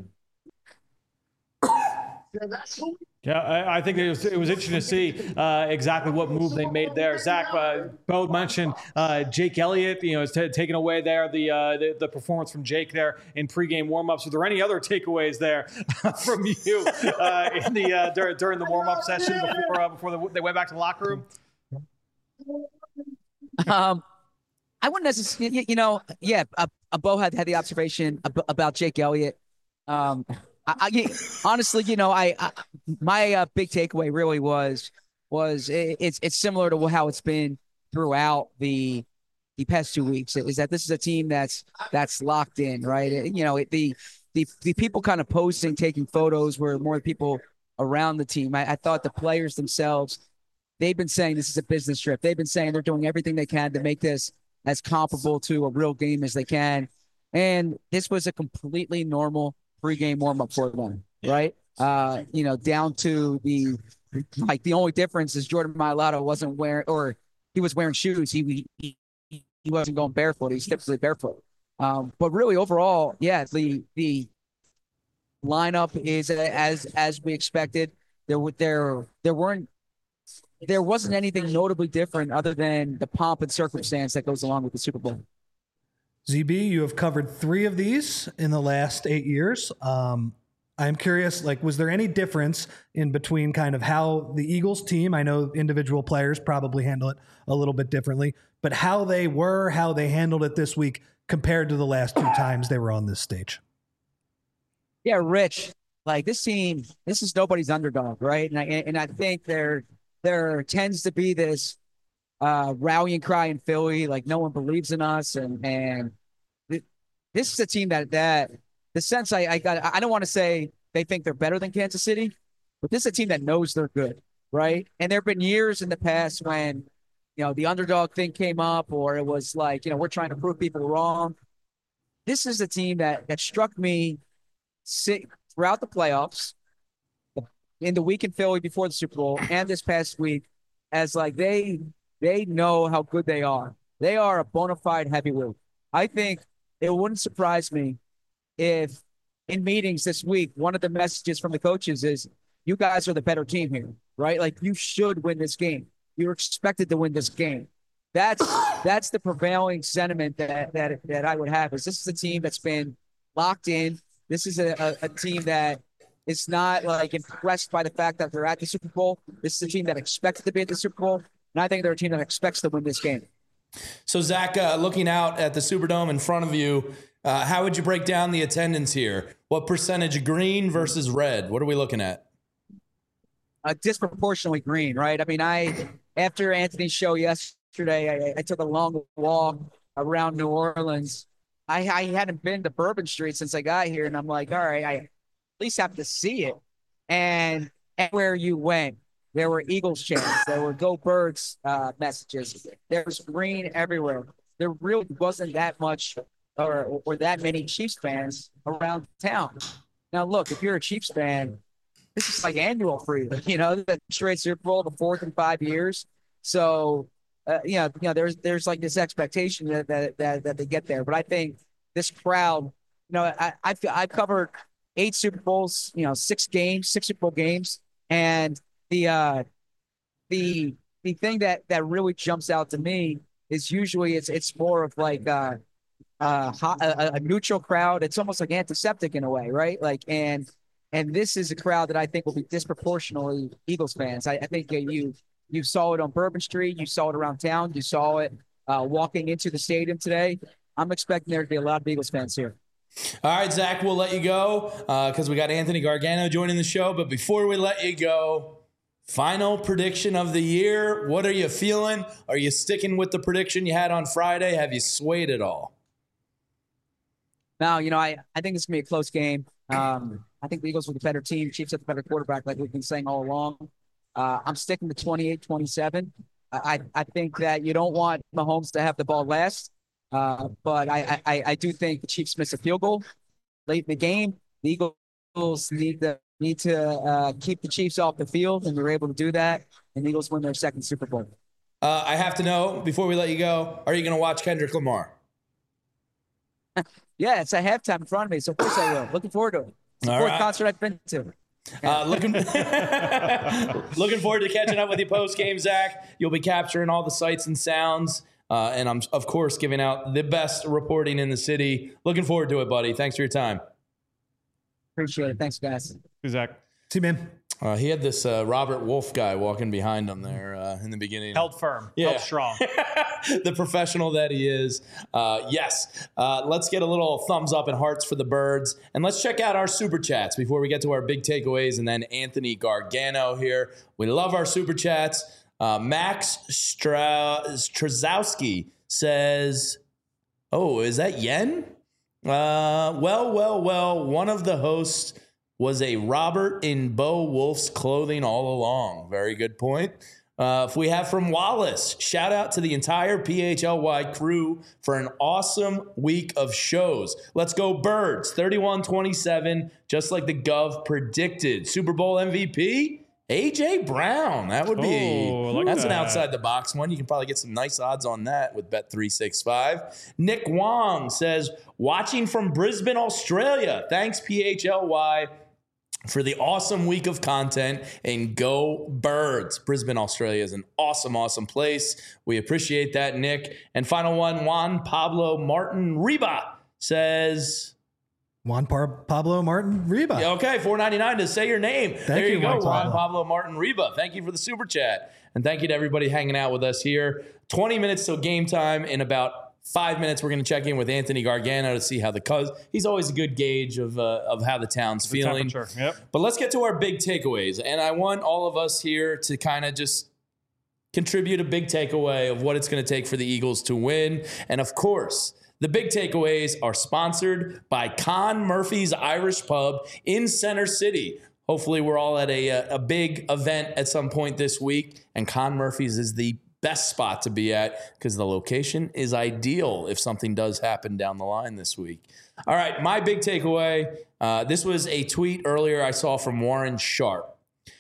Yeah, I think it was interesting to see exactly what move they made there. Zach, Bo mentioned Jake Elliott, is taking away there the performance from Jake there in pregame warmups. Were there any other takeaways there from you during the warmup session before they went back to the locker room? I wouldn't necessarily, Bo had the observation about Jake Elliott. Honestly, my big takeaway really was it's similar to how it's been throughout the past 2 weeks. Is that this is a team that's locked in, right? The people kind of posting, taking photos were more the people around the team. I thought the players themselves, they've been saying this is a business trip. They've been saying they're doing everything they can to make this as comparable to a real game as they can. And this was a completely normal pregame warm-up for them, right? Down to the only difference is Jordan Mailata wasn't wearing, or he was wearing shoes. He wasn't going barefoot. He's typically barefoot. But really overall, yeah, the lineup is as we expected. There wasn't anything notably different other than the pomp and circumstance that goes along with the Super Bowl. ZB, you have covered 3 of these in the last 8 years. I'm curious, was there any difference in between kind of how the Eagles team, I know individual players probably handle it a little bit differently, but how they handled it this week compared to the last 2 times they were on this stage? Yeah, Rich, this team, this is nobody's underdog, right? And I think there tends to be this rallying cry in Philly, no one believes in us, and this is a team that the sense I got, I don't want to say they think they're better than Kansas City, but this is a team that knows they're good, right? And there have been years in the past when the underdog thing came up, or it was we're trying to prove people wrong. This is a team that struck me throughout the playoffs, in the week in Philly before the Super Bowl, and this past week, as they know how good they are. They are a bona fide heavyweight. I think it wouldn't surprise me if in meetings this week, one of the messages from the coaches is, you guys are the better team here, right? You should win this game. You're expected to win this game. That's the prevailing sentiment that I would have. Is this is a team that's been locked in. This is a team that is not impressed by the fact that they're at the Super Bowl. This is a team that expected to be at the Super Bowl. And I think they're a team that expects to win this game. So, Zach, looking out at the Superdome in front of you, how would you break down the attendance here? What percentage green versus red? What are we looking at? Disproportionately green, right? I mean, after Anthony's show yesterday, I took a long walk around New Orleans. I hadn't been to Bourbon Street since I got here, and I'm like, all right, I at least have to see it. And everywhere you went, there were Eagles chants. There were Go Birds messages. There was green everywhere. There really wasn't that much or that many Chiefs fans around town. Now, look, if you're a Chiefs fan, this is like annual for you. The straight Super Bowl, the 4th in 5 years. So, there's like this expectation that they get there. But I think this crowd, I've covered 8 Super Bowls, 6 Super Bowl games, and the thing that really jumps out to me is usually it's more of like a neutral crowd. It's almost like antiseptic in a way, right? Like and this is a crowd that I think will be disproportionately Eagles fans. I think you saw it on Bourbon Street, you saw it around town, you saw it walking into the stadium today. I'm expecting there to be a lot of Eagles fans here. All right, Zach, we'll let you go because we got Anthony Gargano joining the show. But before we let you go, final prediction of the year. What are you feeling? Are you sticking with the prediction you had on Friday? Have you swayed at all? No, I think it's going to be a close game. I think the Eagles were the better team. Chiefs have the better quarterback, like we've been saying all along. I'm sticking to 28-27. I think that you don't want Mahomes to have the ball last. But I do think the Chiefs miss a field goal late in the game. The Eagles need to keep the Chiefs off the field, and they're able to do that. And the Eagles win their 2nd Super Bowl. I have to know, before we let you go, are you going to watch Kendrick Lamar? Yeah, it's a halftime in front of me, so of course I will. Looking forward to it. It's the 4th concert I've been to. Looking forward to catching up with you post-game, Zach. You'll be capturing all the sights and sounds. And I'm, of course, giving out the best reporting in the city. Looking forward to it, buddy. Thanks for your time. Appreciate it. Thanks, guys. Hey, Zach. See you, man. He had this Robert Wolf guy walking behind him there in the beginning. Held firm. Yeah. Held strong. The professional that he is. Yes. Let's get a little thumbs up and hearts for the birds. And let's check out our super chats before we get to our big takeaways. And then Anthony Gargano here. We love our super chats. Max Straszowski says, oh, is that Yen? Well, one of the hosts was a Robert in Bo Wolf's clothing all along. Very good point. If we have from Wallace, shout out to the entire PHLY crew for an awesome week of shows. Let's go Birds, 31-27, just like the Gov predicted. Super Bowl MVP? A.J. Brown. That would be, that's an outside the box one. You can probably get some nice odds on that with Bet365. Nick Wong says, watching from Brisbane, Australia. Thanks, PHLY, for the awesome week of content, and go Birds. Brisbane, Australia is an awesome, awesome place. We appreciate that, Nick. And final one, Juan Pablo Martin Reba says... Pablo Martin Reba. Okay, $4.99 to say your name. There you go, Juan Pablo Martin Reba. Thank you for the super chat. And thank you to everybody hanging out with us here. 20 minutes till game time. In about 5 minutes, we're going to check in with Anthony Gargano to see how he's always a good gauge of how the town's feeling. Yep. But let's get to our big takeaways. And I want all of us here to kind of just contribute a big takeaway of what it's going to take for the Eagles to win. And of course, the big takeaways are sponsored by Con Murphy's Irish Pub in Center City. Hopefully we're all at a big event at some point this week, and Con Murphy's is the best spot to be at because the location is ideal if something does happen down the line this week. All right, my big takeaway, this was a tweet earlier I saw from Warren Sharp.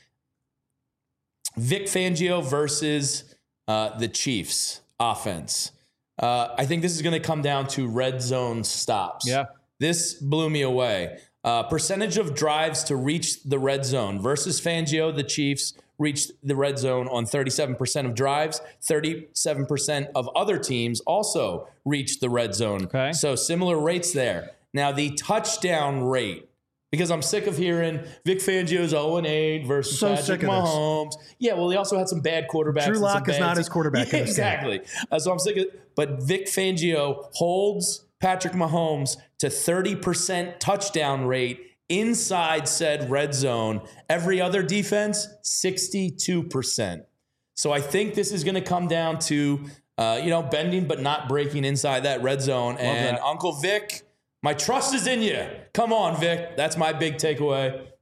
Vic Fangio versus the Chiefs offense. I think this is going to come down to red zone stops. Yeah. This blew me away. Percentage of drives to reach the red zone versus Fangio, the Chiefs reached the red zone on 37% of drives. 37% of other teams also reached the red zone. Okay. So similar rates there. Now the touchdown rate, because I'm sick of hearing Vic Fangio's 0-8 versus Patrick Mahomes. Yeah, well, he also had some bad quarterbacks. Drew Lock is not his quarterback. Yeah, exactly. So I'm sick of it. But Vic Fangio holds Patrick Mahomes to 30% touchdown rate inside said red zone. Every other defense, 62%. So I think this is going to come down to, bending but not breaking inside that red zone. And Uncle Vic, my trust is in you. Come on, Vic. That's my big takeaway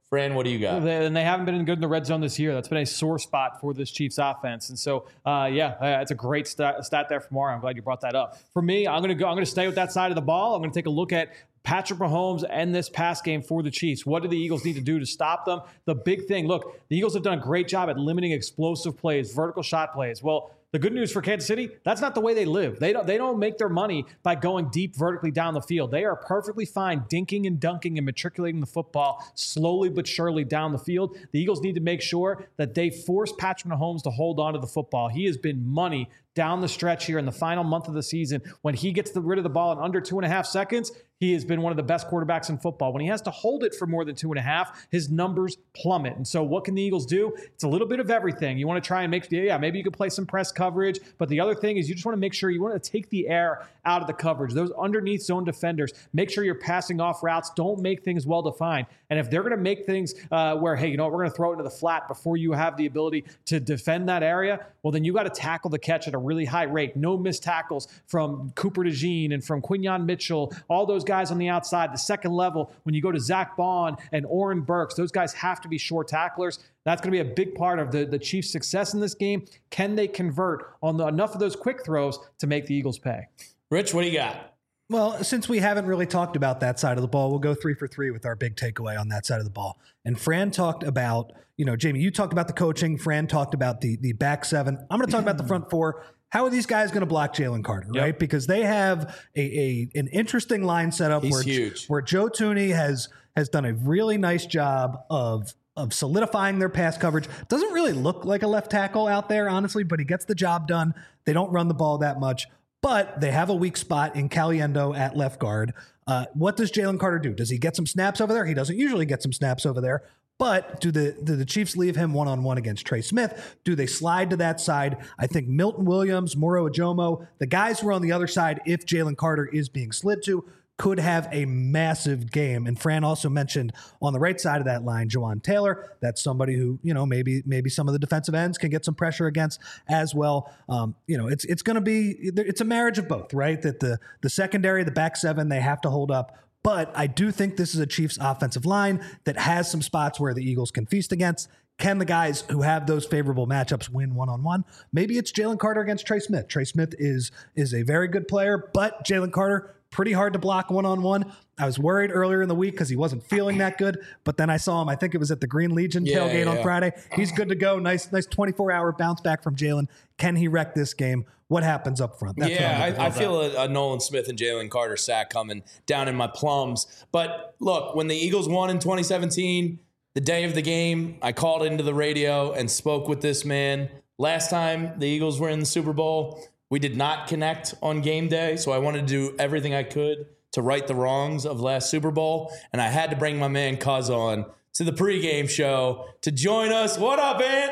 Fran, what do you got? And they haven't been good in the red zone this year. That's been a sore spot for this Chiefs offense. And so, it's a great stat there from Mario. I'm glad you brought that up. For me, I'm going to stay with that side of the ball. I'm going to take a look at Patrick Mahomes and this pass game for the Chiefs. What do the Eagles need to do to stop them? The big thing, look, the Eagles have done a great job at limiting explosive plays, vertical shot plays. Well, the good news for Kansas City, that's not the way they live. They don't make their money by going deep vertically down the field. They are perfectly fine dinking and dunking and matriculating the football slowly but surely down the field. The Eagles need to make sure that they force Patrick Mahomes to hold on to the football. He has been money down the stretch here in the final month of the season. When he gets rid of the ball in under 2.5 seconds, he has been one of the best quarterbacks in football. When he has to hold it for more than 2.5, his numbers plummet. And so what can the Eagles do? It's a little bit of everything. You want to try and maybe you can play some press coverage, but the other thing is you just want to make sure you want to take the air out of the coverage. Those underneath zone defenders, make sure you're passing off routes. Don't make things well-defined. And if they're going to make things where, hey, we're going to throw it into the flat before you have the ability to defend that area, well, then you got to tackle the catch at a really high rate. No missed tackles from Cooper DeJean and from Quinyon Mitchell, all those guys on the outside, the second level. When you go to Zach Bond and Oren Burks, those guys have to be short tacklers. That's going to be a big part of the Chiefs' success in this game. Can they convert on enough of those quick throws to make the Eagles pay? Rich, what do you got? Well, since we haven't really talked about that side of the ball, we'll go 3 for 3 with our big takeaway on that side of the ball. And Fran talked about, Jamie, you talked about the coaching. Fran talked about the back seven. I'm going to talk about the front four. How are these guys going to block Jalen Carter, right? Because they have an interesting line setup where Joe Thuney has done a really nice job of solidifying their pass coverage. Doesn't really look like a left tackle out there, honestly, but he gets the job done. They don't run the ball that much. But they have a weak spot in Caliendo at left guard. What does Jalen Carter do? Does he get some snaps over there? He doesn't usually get some snaps over there. But do the Chiefs leave him one-on-one against Trey Smith? Do they slide to that side? I think Milton Williams, Moro Ajomo, the guys who are on the other side, if Jalen Carter is being slid to, could have a massive game. And Fran also mentioned on the right side of that line, Jawan Taylor. That's somebody who, maybe some of the defensive ends can get some pressure against as well. It's going to be, it's a marriage of both, right? That the secondary, the back seven, they have to hold up. But I do think this is a Chiefs offensive line that has some spots where the Eagles can feast against. Can the guys who have those favorable matchups win one-on-one? Maybe it's Jalen Carter against Trey Smith. Trey Smith is a very good player, but Jalen Carter, pretty hard to block one-on-one. I was worried earlier in the week because he wasn't feeling that good, but then I saw him, I think it was at the Green Legion tailgate on Friday. He's good to go. Nice 24-hour bounce back from Jalen. Can he wreck this game? What happens up front? That's I feel a Nolan Smith and Jalen Carter sack coming down in my plums. But look, when the Eagles won in 2017, the day of the game, I called into the radio and spoke with this man. Last time the Eagles were in the Super Bowl, we did not connect on game day, so I wanted to do everything I could to right the wrongs of last Super Bowl, and I had to bring my man Cuz on to the pregame show to join us. What up, Ant?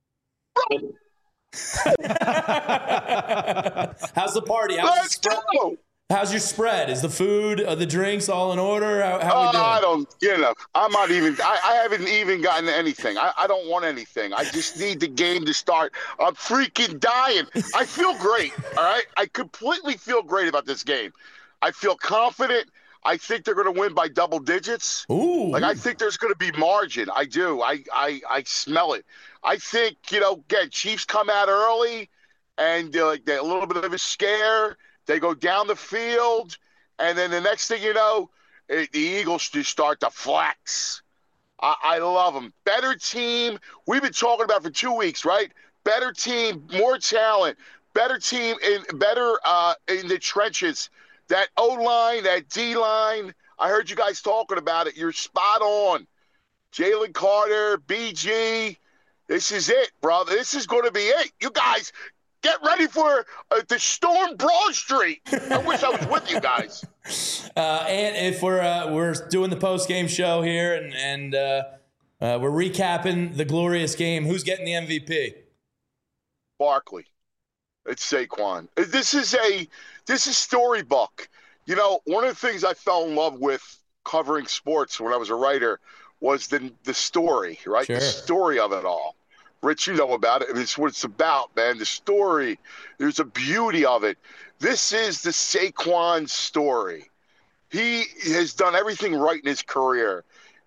How's the party? Let's go. How's your spread? Is the food, the drinks all in order? How we doing? I don't, I'm not even, I haven't even gotten anything. I don't want anything. I just need the game to start. I'm freaking dying. I feel great, all right? I completely feel great about this game. I feel confident. I think they're going to win by double digits. Ooh. I think there's going to be margin. I do. I smell it. I think, again, Chiefs come out early and they're a little bit of a scare. They go down the field, and then the next thing you know, the Eagles just start to flex. I love them. Better team. We've been talking about it for 2 weeks, right? Better team, more talent. Better team, better in the trenches. That O-line, that D-line, I heard you guys talking about it. You're spot on. Jalen Carter, BG, this is it, brother. This is going to be it. You guys – get ready for the storm Broad Street. I wish I was with you guys. And if we're doing the post-game show here and we're recapping the glorious game, who's getting the MVP? Barkley. It's Saquon. This is storybook. One of the things I fell in love with covering sports when I was a writer was the story, right? Sure. The story of it all. Rich, you know about it. It's what it's about, man. The story. There's a beauty of it. This is the Saquon story. He has done everything right in his career.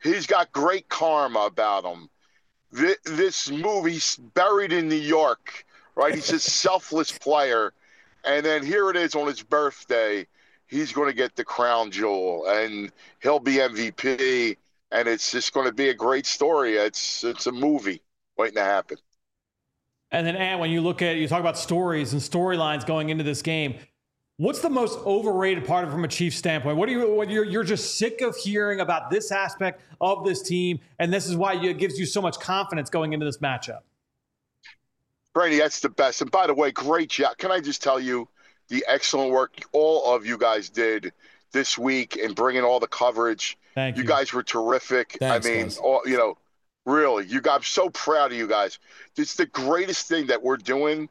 He's got great karma about him. This move, he's buried in New York, right? He's a selfless player. And then here it is on his birthday. He's going to get the crown jewel, and he'll be MVP. And it's just going to be a great story. It's a movie waiting to happen. And then, Ant, when you talk about stories and storylines going into this game, what's the most overrated part of it from a Chiefs standpoint? What you're just sick of hearing about this aspect of this team, and this is why it gives you so much confidence going into this matchup? Brady, that's the best. And by the way, great job. Can I just tell you the excellent work all of you guys did this week in bringing all the coverage. Thank you. You guys were terrific. Thanks, I mean, guys. really, I'm so proud of you guys. It's the greatest thing that we're doing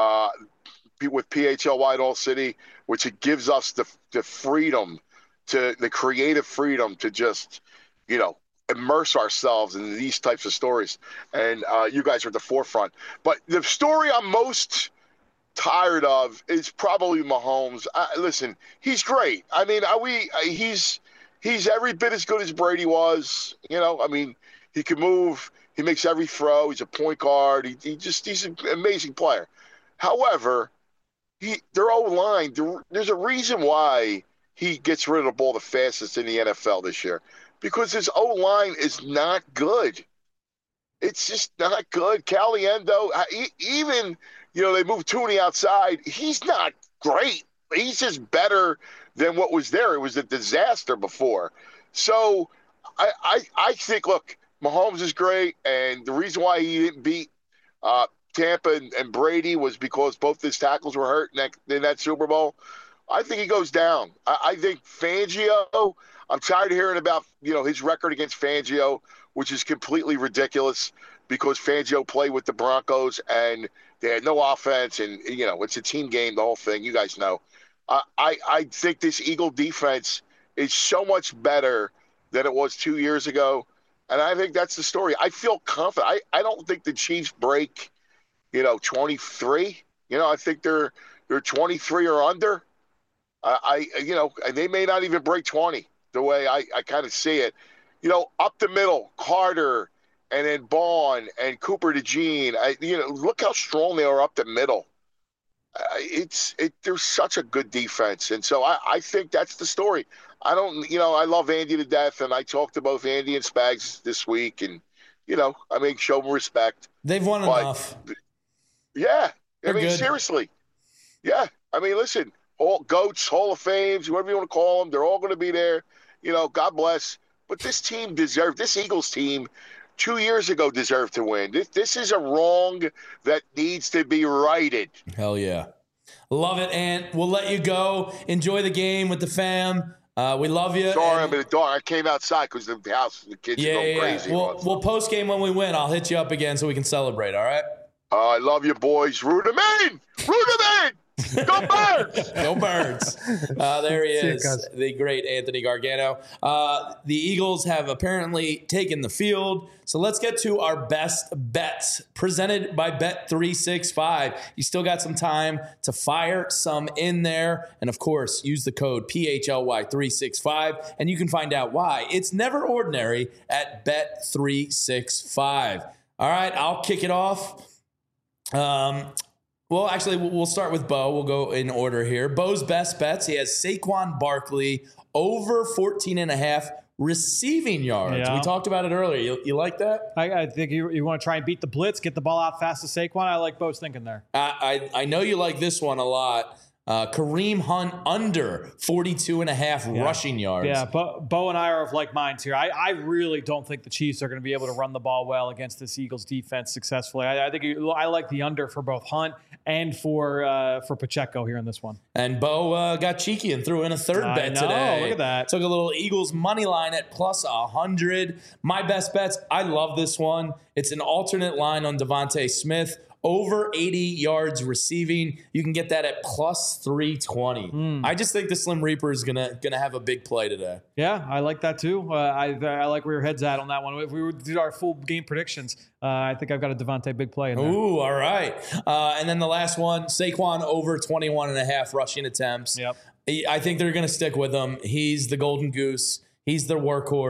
with PHLY at All City, which it gives us the freedom, the creative freedom to just, immerse ourselves in these types of stories. And you guys are at the forefront. But the story I'm most tired of is probably Mahomes. Listen, he's great. I mean, he's every bit as good as Brady was. He can move. He makes every throw. He's a point guard. He's an amazing player. However, their O-line, there's a reason why he gets rid of the ball the fastest in the NFL this year, because his O-line is not good. It's just not good. Caliendo, even, they moved Tooney outside. He's not great. He's just better than what was there. It was a disaster before. So I think, look, Mahomes is great, and the reason why he didn't beat Tampa and Brady was because both his tackles were hurt in that Super Bowl. I think he goes down. I think Fangio, I'm tired of hearing about, his record against Fangio, which is completely ridiculous because Fangio played with the Broncos and they had no offense, and, it's a team game, the whole thing. You guys know. I think this Eagle defense is so much better than it was 2 years ago, and I think that's the story. I feel confident. I don't think the Chiefs break, 23. I think they're 23 or under. And they may not even break 20 the way I kind of see it. Up the middle, Carter, and then Bond and Cooper DeJean. Look how strong they are up the middle. They're such a good defense, and so I think that's the story. I love Andy to death, and I talked to both Andy and Spags this week, and show them respect. They've won enough. Yeah, Good. Seriously. Yeah, listen, all GOATs, Hall of Fames, whatever you want to call them, they're all going to be there. God bless. But this Eagles team 2 years ago deserved to win. This is a wrong that needs to be righted. Hell yeah. Love it, Ant. We'll let you go. Enjoy the game with the fam. We love you. Sorry, I'm in the dark. I came outside because the house, the kids are going crazy. We'll post game when we win. I'll hit you up again so we can celebrate, all right? I love you, boys. Root them in! Root them in! Go Birds! Go Birds. There he is, the great Anthony Gargano. The Eagles have apparently taken the field. So let's get to our best bets presented by Bet365. You still got some time to fire some in there. And of course, use the code PHLY365 and you can find out why it's never ordinary at Bet365. All right, I'll kick it off. Well, actually, we'll start with Bo. We'll go in order here. Bo's best bets. He has Saquon Barkley over 14.5 receiving yards. Yeah. We talked about it earlier. You like that? I think you want to try and beat the blitz, get the ball out fast to Saquon. I like Bo's thinking there. I know you like this one a lot. Kareem Hunt under 42.5 rushing yards. Yeah, Bo and I are of like minds here. I really don't think the Chiefs are going to be able to run the ball well against this Eagles defense successfully. I think I like the under for both Hunt and for Pacheco here in this one. And Bo got cheeky and threw in a third bet today. Look at that. Took a little Eagles money line at plus 100. My best bets, I love this one. It's an alternate line on Devontae Smith. Over 80 yards receiving. You can get that at plus 320. I just think the Slim Reaper is gonna have a big play today. Yeah, I like that too. I like where your head's at on that one. If we were to do our full game predictions, I think I've got a Devontae big play in there. Ooh, all right. And then the last one, Saquon over 21.5 rushing attempts. Yep. I think they're going to stick with him. He's the golden goose. He's the workhorse.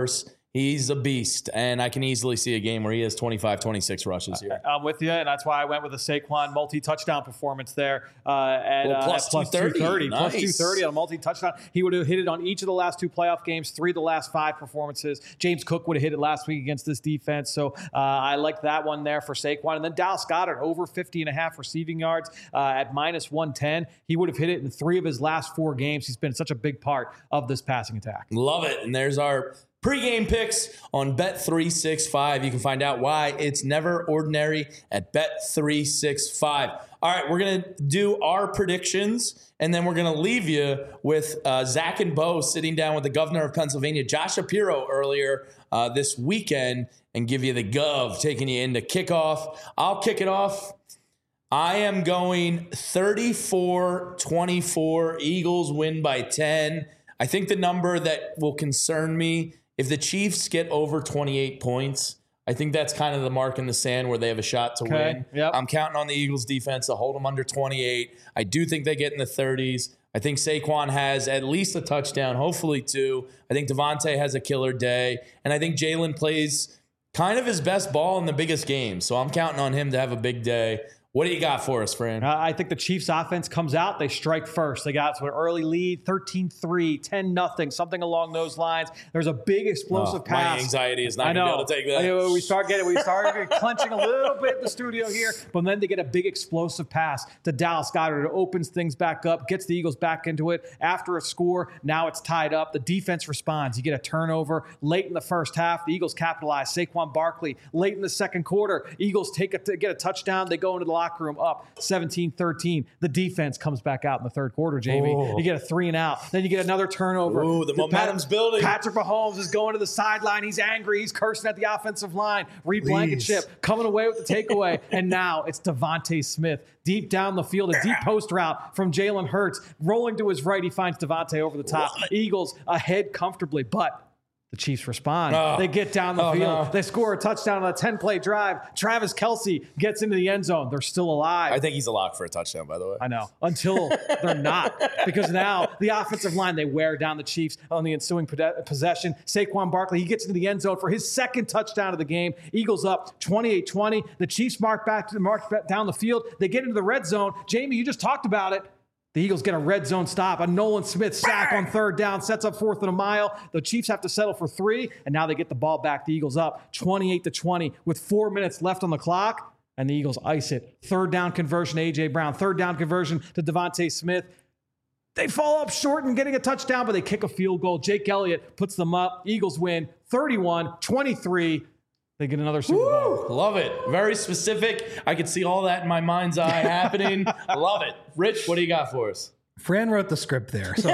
He's a beast, and I can easily see a game where he has 25, 26 rushes here. I'm with you, and that's why I went with a Saquon multi-touchdown performance there at plus 230. Nice. Plus 230 on a multi-touchdown. He would have hit it on each of the last 2 playoff games, 3 of the last 5 performances. James Cook would have hit it last week against this defense, so I like that one there for Saquon. And then Dallas Goedert, over 50.5 receiving yards at minus 110. He would have hit it in 3 of his last 4 games. He's been such a big part of this passing attack. Love it, and there's our pre-game picks on Bet365. You can find out why it's never ordinary at Bet365. All right, we're going to do our predictions, and then we're going to leave you with Zach and Bo sitting down with the governor of Pennsylvania, Josh Shapiro, earlier this weekend, and give you the gov, taking you into kickoff. I'll kick it off. I am going 34-24. Eagles win by 10. I think the number that will concern me, if the Chiefs get over 28 points, I think that's kind of the mark in the sand where they have a shot to win. Yep. I'm counting on the Eagles defense to hold them under 28. I do think they get in the 30s. I think Saquon has at least a touchdown, hopefully 2. I think Devontae has a killer day. And I think Jalen plays kind of his best ball in the biggest game. So I'm counting on him to have a big day. What do you got for us, Fran? I think the Chiefs offense comes out. They strike first. They got to an early lead, 13-3, 10-0, something along those lines. There's a big explosive pass. My anxiety is not going to be able to take that. We start clenching a little bit in the studio here, but then they get a big explosive pass to Dallas Goedert. It opens things back up, gets the Eagles back into it. After a score, now it's tied up. The defense responds. You get a turnover late in the first half. The Eagles capitalize. Saquon Barkley late in the second quarter. Eagles get a touchdown. They go into the locker room up 17-13. The defense comes back out in the third quarter, Jamie. You get a 3 and out. Then you get another turnover. Ooh, the momentum's building. Patrick Mahomes is going to the sideline. He's angry. He's cursing at the offensive line. Reed Blankenship coming away with the takeaway. And now it's Devontae Smith deep down the field, a deep post route from Jalen Hurts. Rolling to his right, he finds Devontae over the top. Eagles ahead comfortably, but the Chiefs respond. They get down the field. No. They score a touchdown on a 10-play drive. Travis Kelce gets into the end zone. They're still alive. I think he's a lock for a touchdown, by the way. I know. Until they're not. Because now the offensive line, they wear down the Chiefs on the ensuing possession. Saquon Barkley, he gets into the end zone for his second touchdown of the game. Eagles up 28-20. The Chiefs mark down the field. They get into the red zone. Jamie, you just talked about it. The Eagles get a red zone stop. A Nolan Smith sack on 3rd down, sets up 4th and a mile. The Chiefs have to settle for 3, and now they get the ball back. The Eagles up 28-20 with 4 minutes left on the clock, and the Eagles ice it. 3rd down conversion, A.J. Brown. 3rd down conversion to Devontae Smith. They fall up short in getting a touchdown, but they kick a field goal. Jake Elliott puts them up. Eagles win 31-23. They get another Super Bowl. Love it. Very specific. I could see all that in my mind's eye happening. Love it. Rich, what do you got for us? Fran wrote the script there. So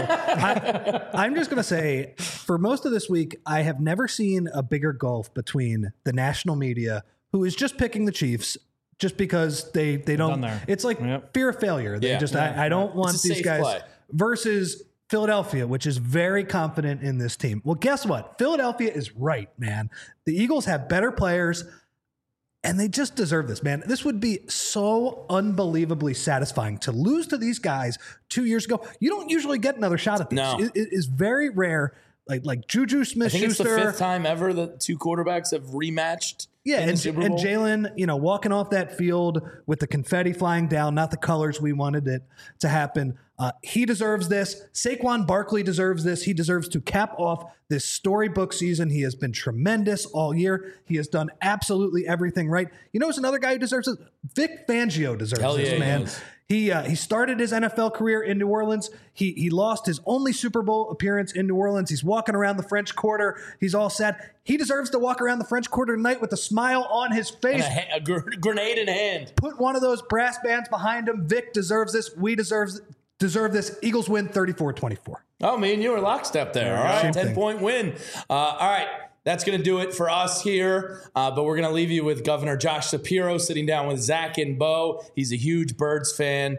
I'm just going to say, for most of this week, I have never seen a bigger gulf between the national media, who is just picking the Chiefs just because they don't. It's like fear of failure. They I don't want these guys play. Versus Philadelphia, which is very confident in this team. Well, guess what? Philadelphia is right, man. The Eagles have better players, and they just deserve this, man. This would be so unbelievably satisfying to lose to these guys 2 years ago. You don't usually get another shot at this. No. It is very rare. Like Juju Smith-Schuster. I think it's the 5th time ever that 2 quarterbacks have rematched. Yeah, and Jalen, walking off that field with the confetti flying down, not the colors we wanted it to happen. He deserves this. Saquon Barkley deserves this. He deserves to cap off this storybook season. He has been tremendous all year. He has done absolutely everything right. You know who's another guy who deserves it? Vic Fangio deserves this, man. He started his NFL career in New Orleans. He lost his only Super Bowl appearance in New Orleans. He's walking around the French Quarter. He's all sad. He deserves to walk around the French Quarter tonight with a smile on his face. And a grenade in hand. Put one of those brass bands behind him. Vic deserves this. We deserve this. Eagles win 34-24. Oh, me and you are lockstep there. All right, 10-point win. All right. That's going to do it for us here, but we're going to leave you with Governor Josh Shapiro sitting down with Zach and Bo. He's a huge Birds fan.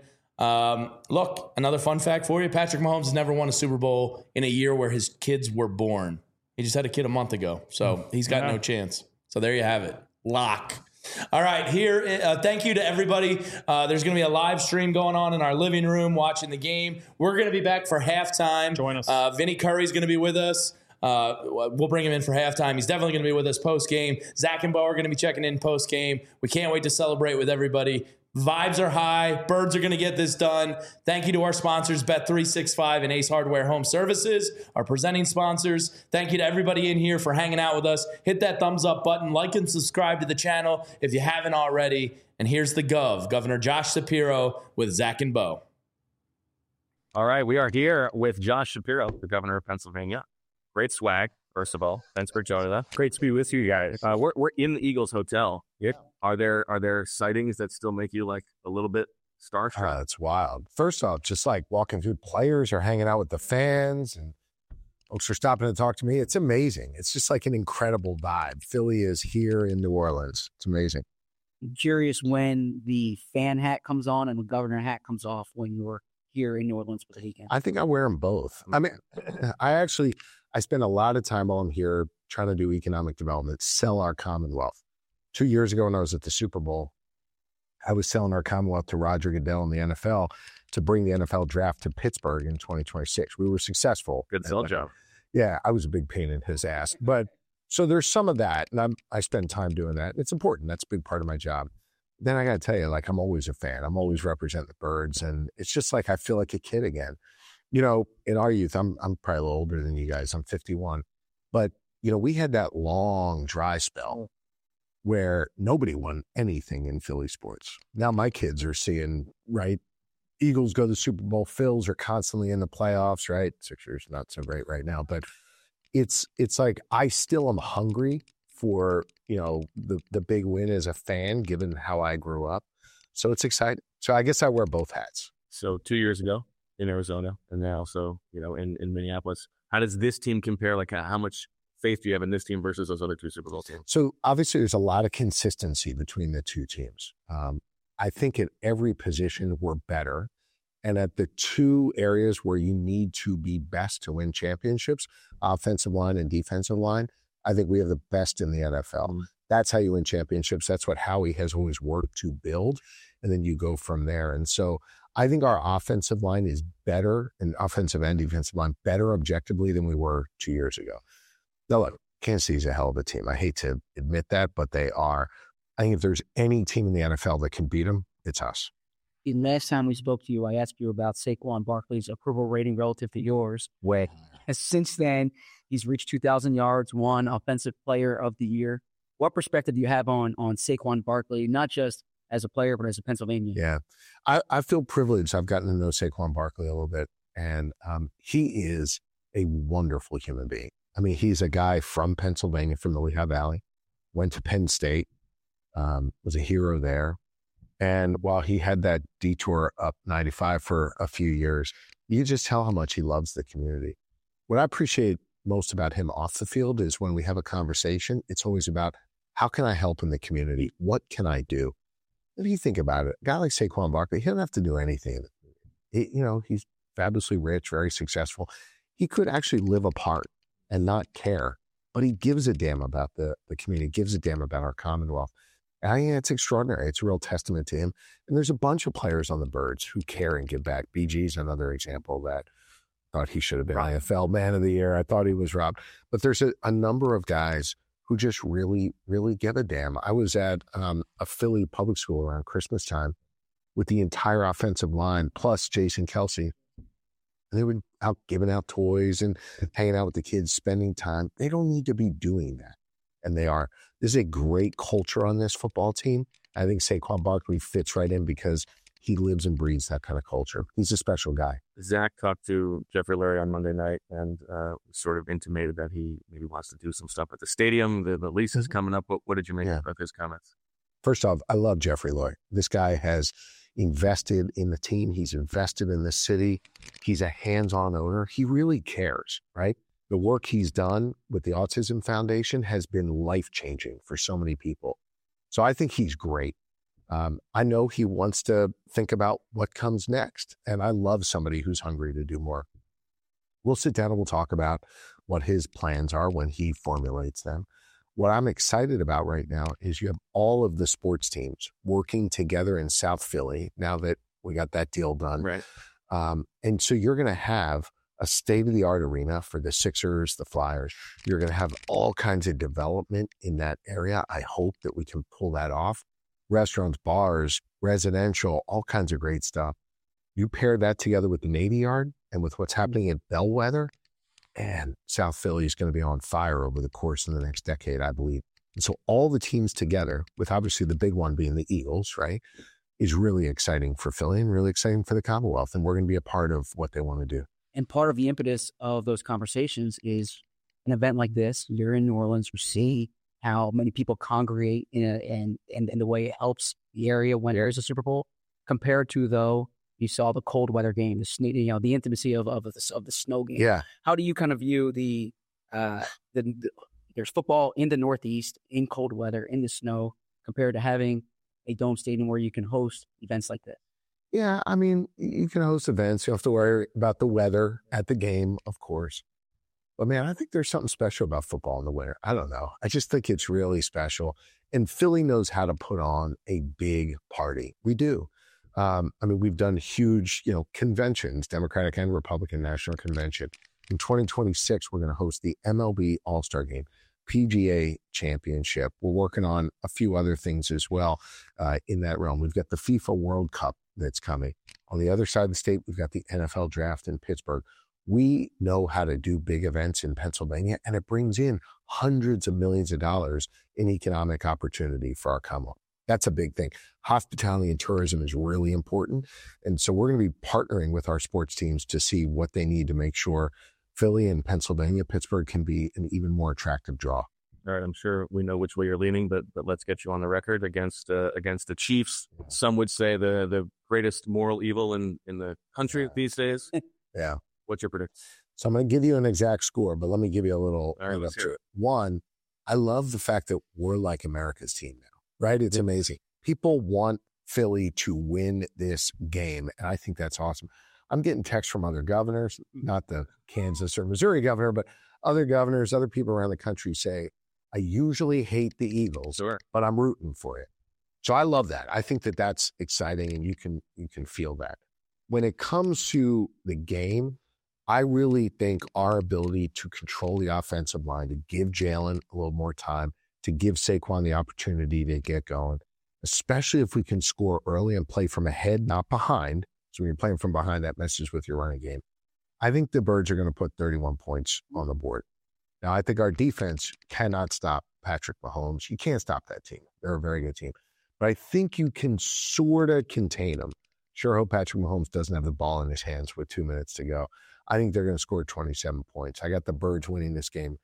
Look, another fun fact for you. Patrick Mahomes has never won a Super Bowl in a year where his kids were born. He just had a kid a month ago, so he's got no chance. So there you have it. Lock. All right, here, thank you to everybody. There's going to be a live stream going on in our living room watching the game. We're going to be back for halftime. Join us. Vinny Curry's going to be with us. We'll bring him in for halftime. He's definitely going to be with us post-game. Zach and Bo are going to be checking in post-game. We can't wait to celebrate with everybody. Vibes are high. Birds are going to get this done. Thank you to our sponsors, Bet365 and Ace Hardware Home Services, our presenting sponsors. Thank you to everybody in here for hanging out with us. Hit that thumbs up button. Like and subscribe to the channel if you haven't already. And here's the Governor Josh Shapiro with Zach and Bo. All right, we are here with Josh Shapiro, the governor of Pennsylvania. Great swag, first of all. Thanks for joining us. Great to be with you guys. We're in the Eagles Hotel. Yeah. Are there sightings that still make you like a little bit starstruck? It's wild. First off, just like walking through, players are hanging out with the fans and folks are stopping to talk to me. It's amazing. It's just like an incredible vibe. Philly is here in New Orleans. It's amazing. I'm curious when the fan hat comes on and the governor hat comes off when you're here in New Orleans for the weekend. I think I wear them both. I mean, I spend a lot of time while I'm here trying to do economic development, sell our Commonwealth. 2 years ago when I was at the Super Bowl, I was selling our Commonwealth to Roger Goodell in the NFL to bring the NFL draft to Pittsburgh in 2026. We were successful. Good sell job. Yeah, I was a big pain in his ass. But so there's some of that, and I spend time doing that. It's important. That's a big part of my job. Then I got to tell you, like, I'm always a fan. I'm always representing the Birds, and it's just like I feel like a kid again. You know, in our youth, I'm probably a little older than you guys. I'm 51. But, you know, we had that long dry spell where nobody won anything in Philly sports. Now my kids are seeing, right, Eagles go to the Super Bowl, Phils are constantly in the playoffs, right? Sixers not so great right now, but it's like I still am hungry for, you know, the big win as a fan, given how I grew up. So it's exciting. So I guess I wear both hats. So 2 years ago in Arizona and now, so, you know, in Minneapolis, how does this team compare? Like how much faith do you have in this team versus those other two Super Bowl teams? So obviously there's a lot of consistency between the two teams. I think at every position we're better. And at the two areas where you need to be best to win championships, offensive line and defensive line, I think we have the best in the NFL. Mm-hmm. That's how you win championships. That's what Howie has always worked to build. And then you go from there. And so I think our offensive line is better, and offensive and defensive line better objectively than we were 2 years ago. Now, look, Kansas City's a hell of a team. I hate to admit that, but they are. I think if there's any team in the NFL that can beat them, it's us. The last time we spoke to you, I asked you about Saquon Barkley's approval rating relative to yours. Way. And since then, he's reached 2,000 yards, won Offensive Player of the Year. What perspective do you have on Saquon Barkley, not just as a player, but as a Pennsylvanian? Yeah, I feel privileged. I've gotten to know Saquon Barkley a little bit, and he is a wonderful human being. I mean, he's a guy from Pennsylvania, from the Lehigh Valley, went to Penn State, was a hero there. And while he had that detour up 95 for a few years, you just tell how much he loves the community. What I appreciate most about him off the field is when we have a conversation, it's always about how can I help in the community? What can I do? If you think about it, a guy like Saquon Barkley, he doesn't have to do anything. He's fabulously rich, very successful. He could actually live apart and not care, but he gives a damn about the community, gives a damn about our Commonwealth. And I think it's extraordinary. It's a real testament to him. And there's a bunch of players on the Birds who care and give back. BG's another example that thought he should have been IFL Man of the Year. I thought he was robbed. But there's a number of guys who just really, really give a damn. I was at a Philly public school around Christmas time with the entire offensive line, plus Jason Kelce. And they were out giving out toys and hanging out with the kids, spending time. They don't need to be doing that. And they are. There's a great culture on this football team. I think Saquon Barkley fits right in because he lives and breathes that kind of culture. He's a special guy. Zach talked to Jeffrey Lurie on Monday night and sort of intimated that he maybe wants to do some stuff at the stadium. The lease is coming up. What did you make about his comments? First off, I love Jeffrey Lurie. This guy has invested in the team. He's invested in the city. He's a hands-on owner. He really cares, right? The work he's done with the Autism Foundation has been life-changing for so many people. So I think he's great. I know he wants to think about what comes next, and I love somebody who's hungry to do more. We'll sit down and we'll talk about what his plans are when he formulates them. What I'm excited about right now is you have all of the sports teams working together in South Philly now that we got that deal done. Right. And so you're going to have a state-of-the-art arena for the Sixers, the Flyers. You're going to have all kinds of development in that area. I hope that we can pull that off. Restaurants, bars, residential, all kinds of great stuff. You pair that together with the Navy Yard and with what's happening at Bellwether, and South Philly is going to be on fire over the course of the next decade, I believe. And so all the teams together, with obviously the big one being the Eagles, right, is really exciting for Philly and really exciting for the Commonwealth. And we're going to be a part of what they want to do. And part of the impetus of those conversations is an event like this. You're in New Orleans, you see how many people congregate and the way it helps the area when there is a Super Bowl, compared to, though, you saw the cold weather game, the intimacy of the snow game. Yeah. How do you kind of view there's football in the Northeast, in cold weather, in the snow, compared to having a dome stadium where you can host events like that? Yeah, I mean, you can host events. You don't have to worry about the weather at the game, of course. But, man, I think there's something special about football in the winter. I don't know. I just think it's really special. And Philly knows how to put on a big party. We do. I mean, we've done huge, conventions, Democratic and Republican National Convention. In 2026, we're going to host the MLB All-Star Game, PGA Championship. We're working on a few other things as well in that realm. We've got the FIFA World Cup that's coming. On the other side of the state, we've got the NFL Draft in Pittsburgh. We know how to do big events in Pennsylvania, and it brings in hundreds of millions of dollars in economic opportunity for our Commonwealth. That's a big thing. Hospitality and tourism is really important. And so we're going to be partnering with our sports teams to see what they need to make sure Philly and Pennsylvania, Pittsburgh can be an even more attractive draw. All right, I'm sure we know which way you're leaning, but let's get you on the record against the Chiefs. Some would say the greatest moral evil in the country these days. Yeah. What's your prediction? So I'm going to give you an exact score, but let me give you a little. All right, let's hear it. One, I love the fact that we're like America's team now, right? It's amazing. People want Philly to win this game, and I think that's awesome. I'm getting texts from other governors, not the Kansas or Missouri governor, but other governors, other people around the country say, I usually hate the Eagles, but I'm rooting for it. So I love that. I think that that's exciting, and you can feel that. When it comes to the game, I really think our ability to control the offensive line, to give Jalen a little more time, to give Saquon the opportunity to get going, especially if we can score early and play from ahead, not behind. So when you're playing from behind, that messes with your running game. I think the Birds are going to put 31 points on the board. Now, I think our defense cannot stop Patrick Mahomes. You can't stop that team. They're a very good team. But I think you can sort of contain them. Sure hope Patrick Mahomes doesn't have the ball in his hands with 2 minutes to go. I think they're going to score 27 points. I got the Birds winning this game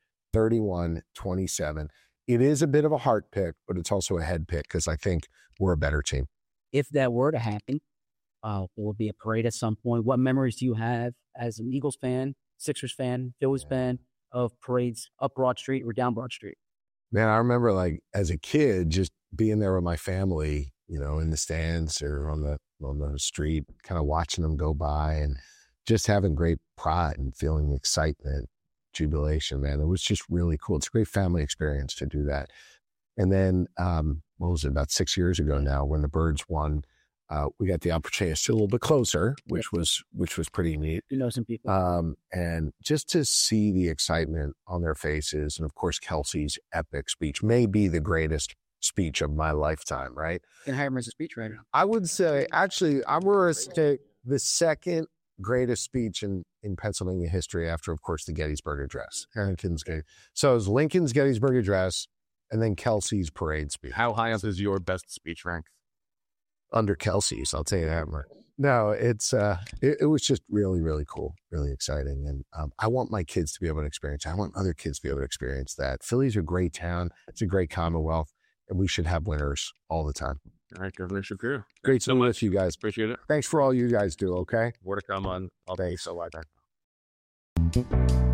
31-27. It is a bit of a heart pick, but it's also a head pick because I think we're a better team. If that were to happen, there will be a parade at some point. What memories do you have as an Eagles fan, Sixers fan, Phillies fan of parades up Broad Street or down Broad Street? Man, I remember like as a kid just being there with my family, in the stands or on the street, kind of watching them go by and just having great pride and feeling excitement, jubilation, man. It was just really cool. It's a great family experience to do that. And then, what was it, about 6 years ago now when the Birds won, we got the opportunity to sit a little bit closer, which was pretty neat. You know some people. And just to see the excitement on their faces. And of course, Kelsey's epic speech may be the greatest speech of my lifetime, right? You can hire him as a speechwriter. I would say, actually, I'm going to say the second greatest speech in Pennsylvania history after, of course, the Gettysburg Address. So it was Lincoln's Gettysburg Address and then Kelsey's parade speech. How high up is your best speech rank? Under Kelsey's, I'll tell you that much. No, it was just really, really cool, really exciting. And I want my kids to be able to experience it. I want other kids to be able to experience that. Philly's a great town. It's a great Commonwealth. And we should have winners all the time. All right, Governor Shapiro. Great to meet you guys. Appreciate it. Thanks for all you guys do, okay? More to come on all day. Thanks. So much.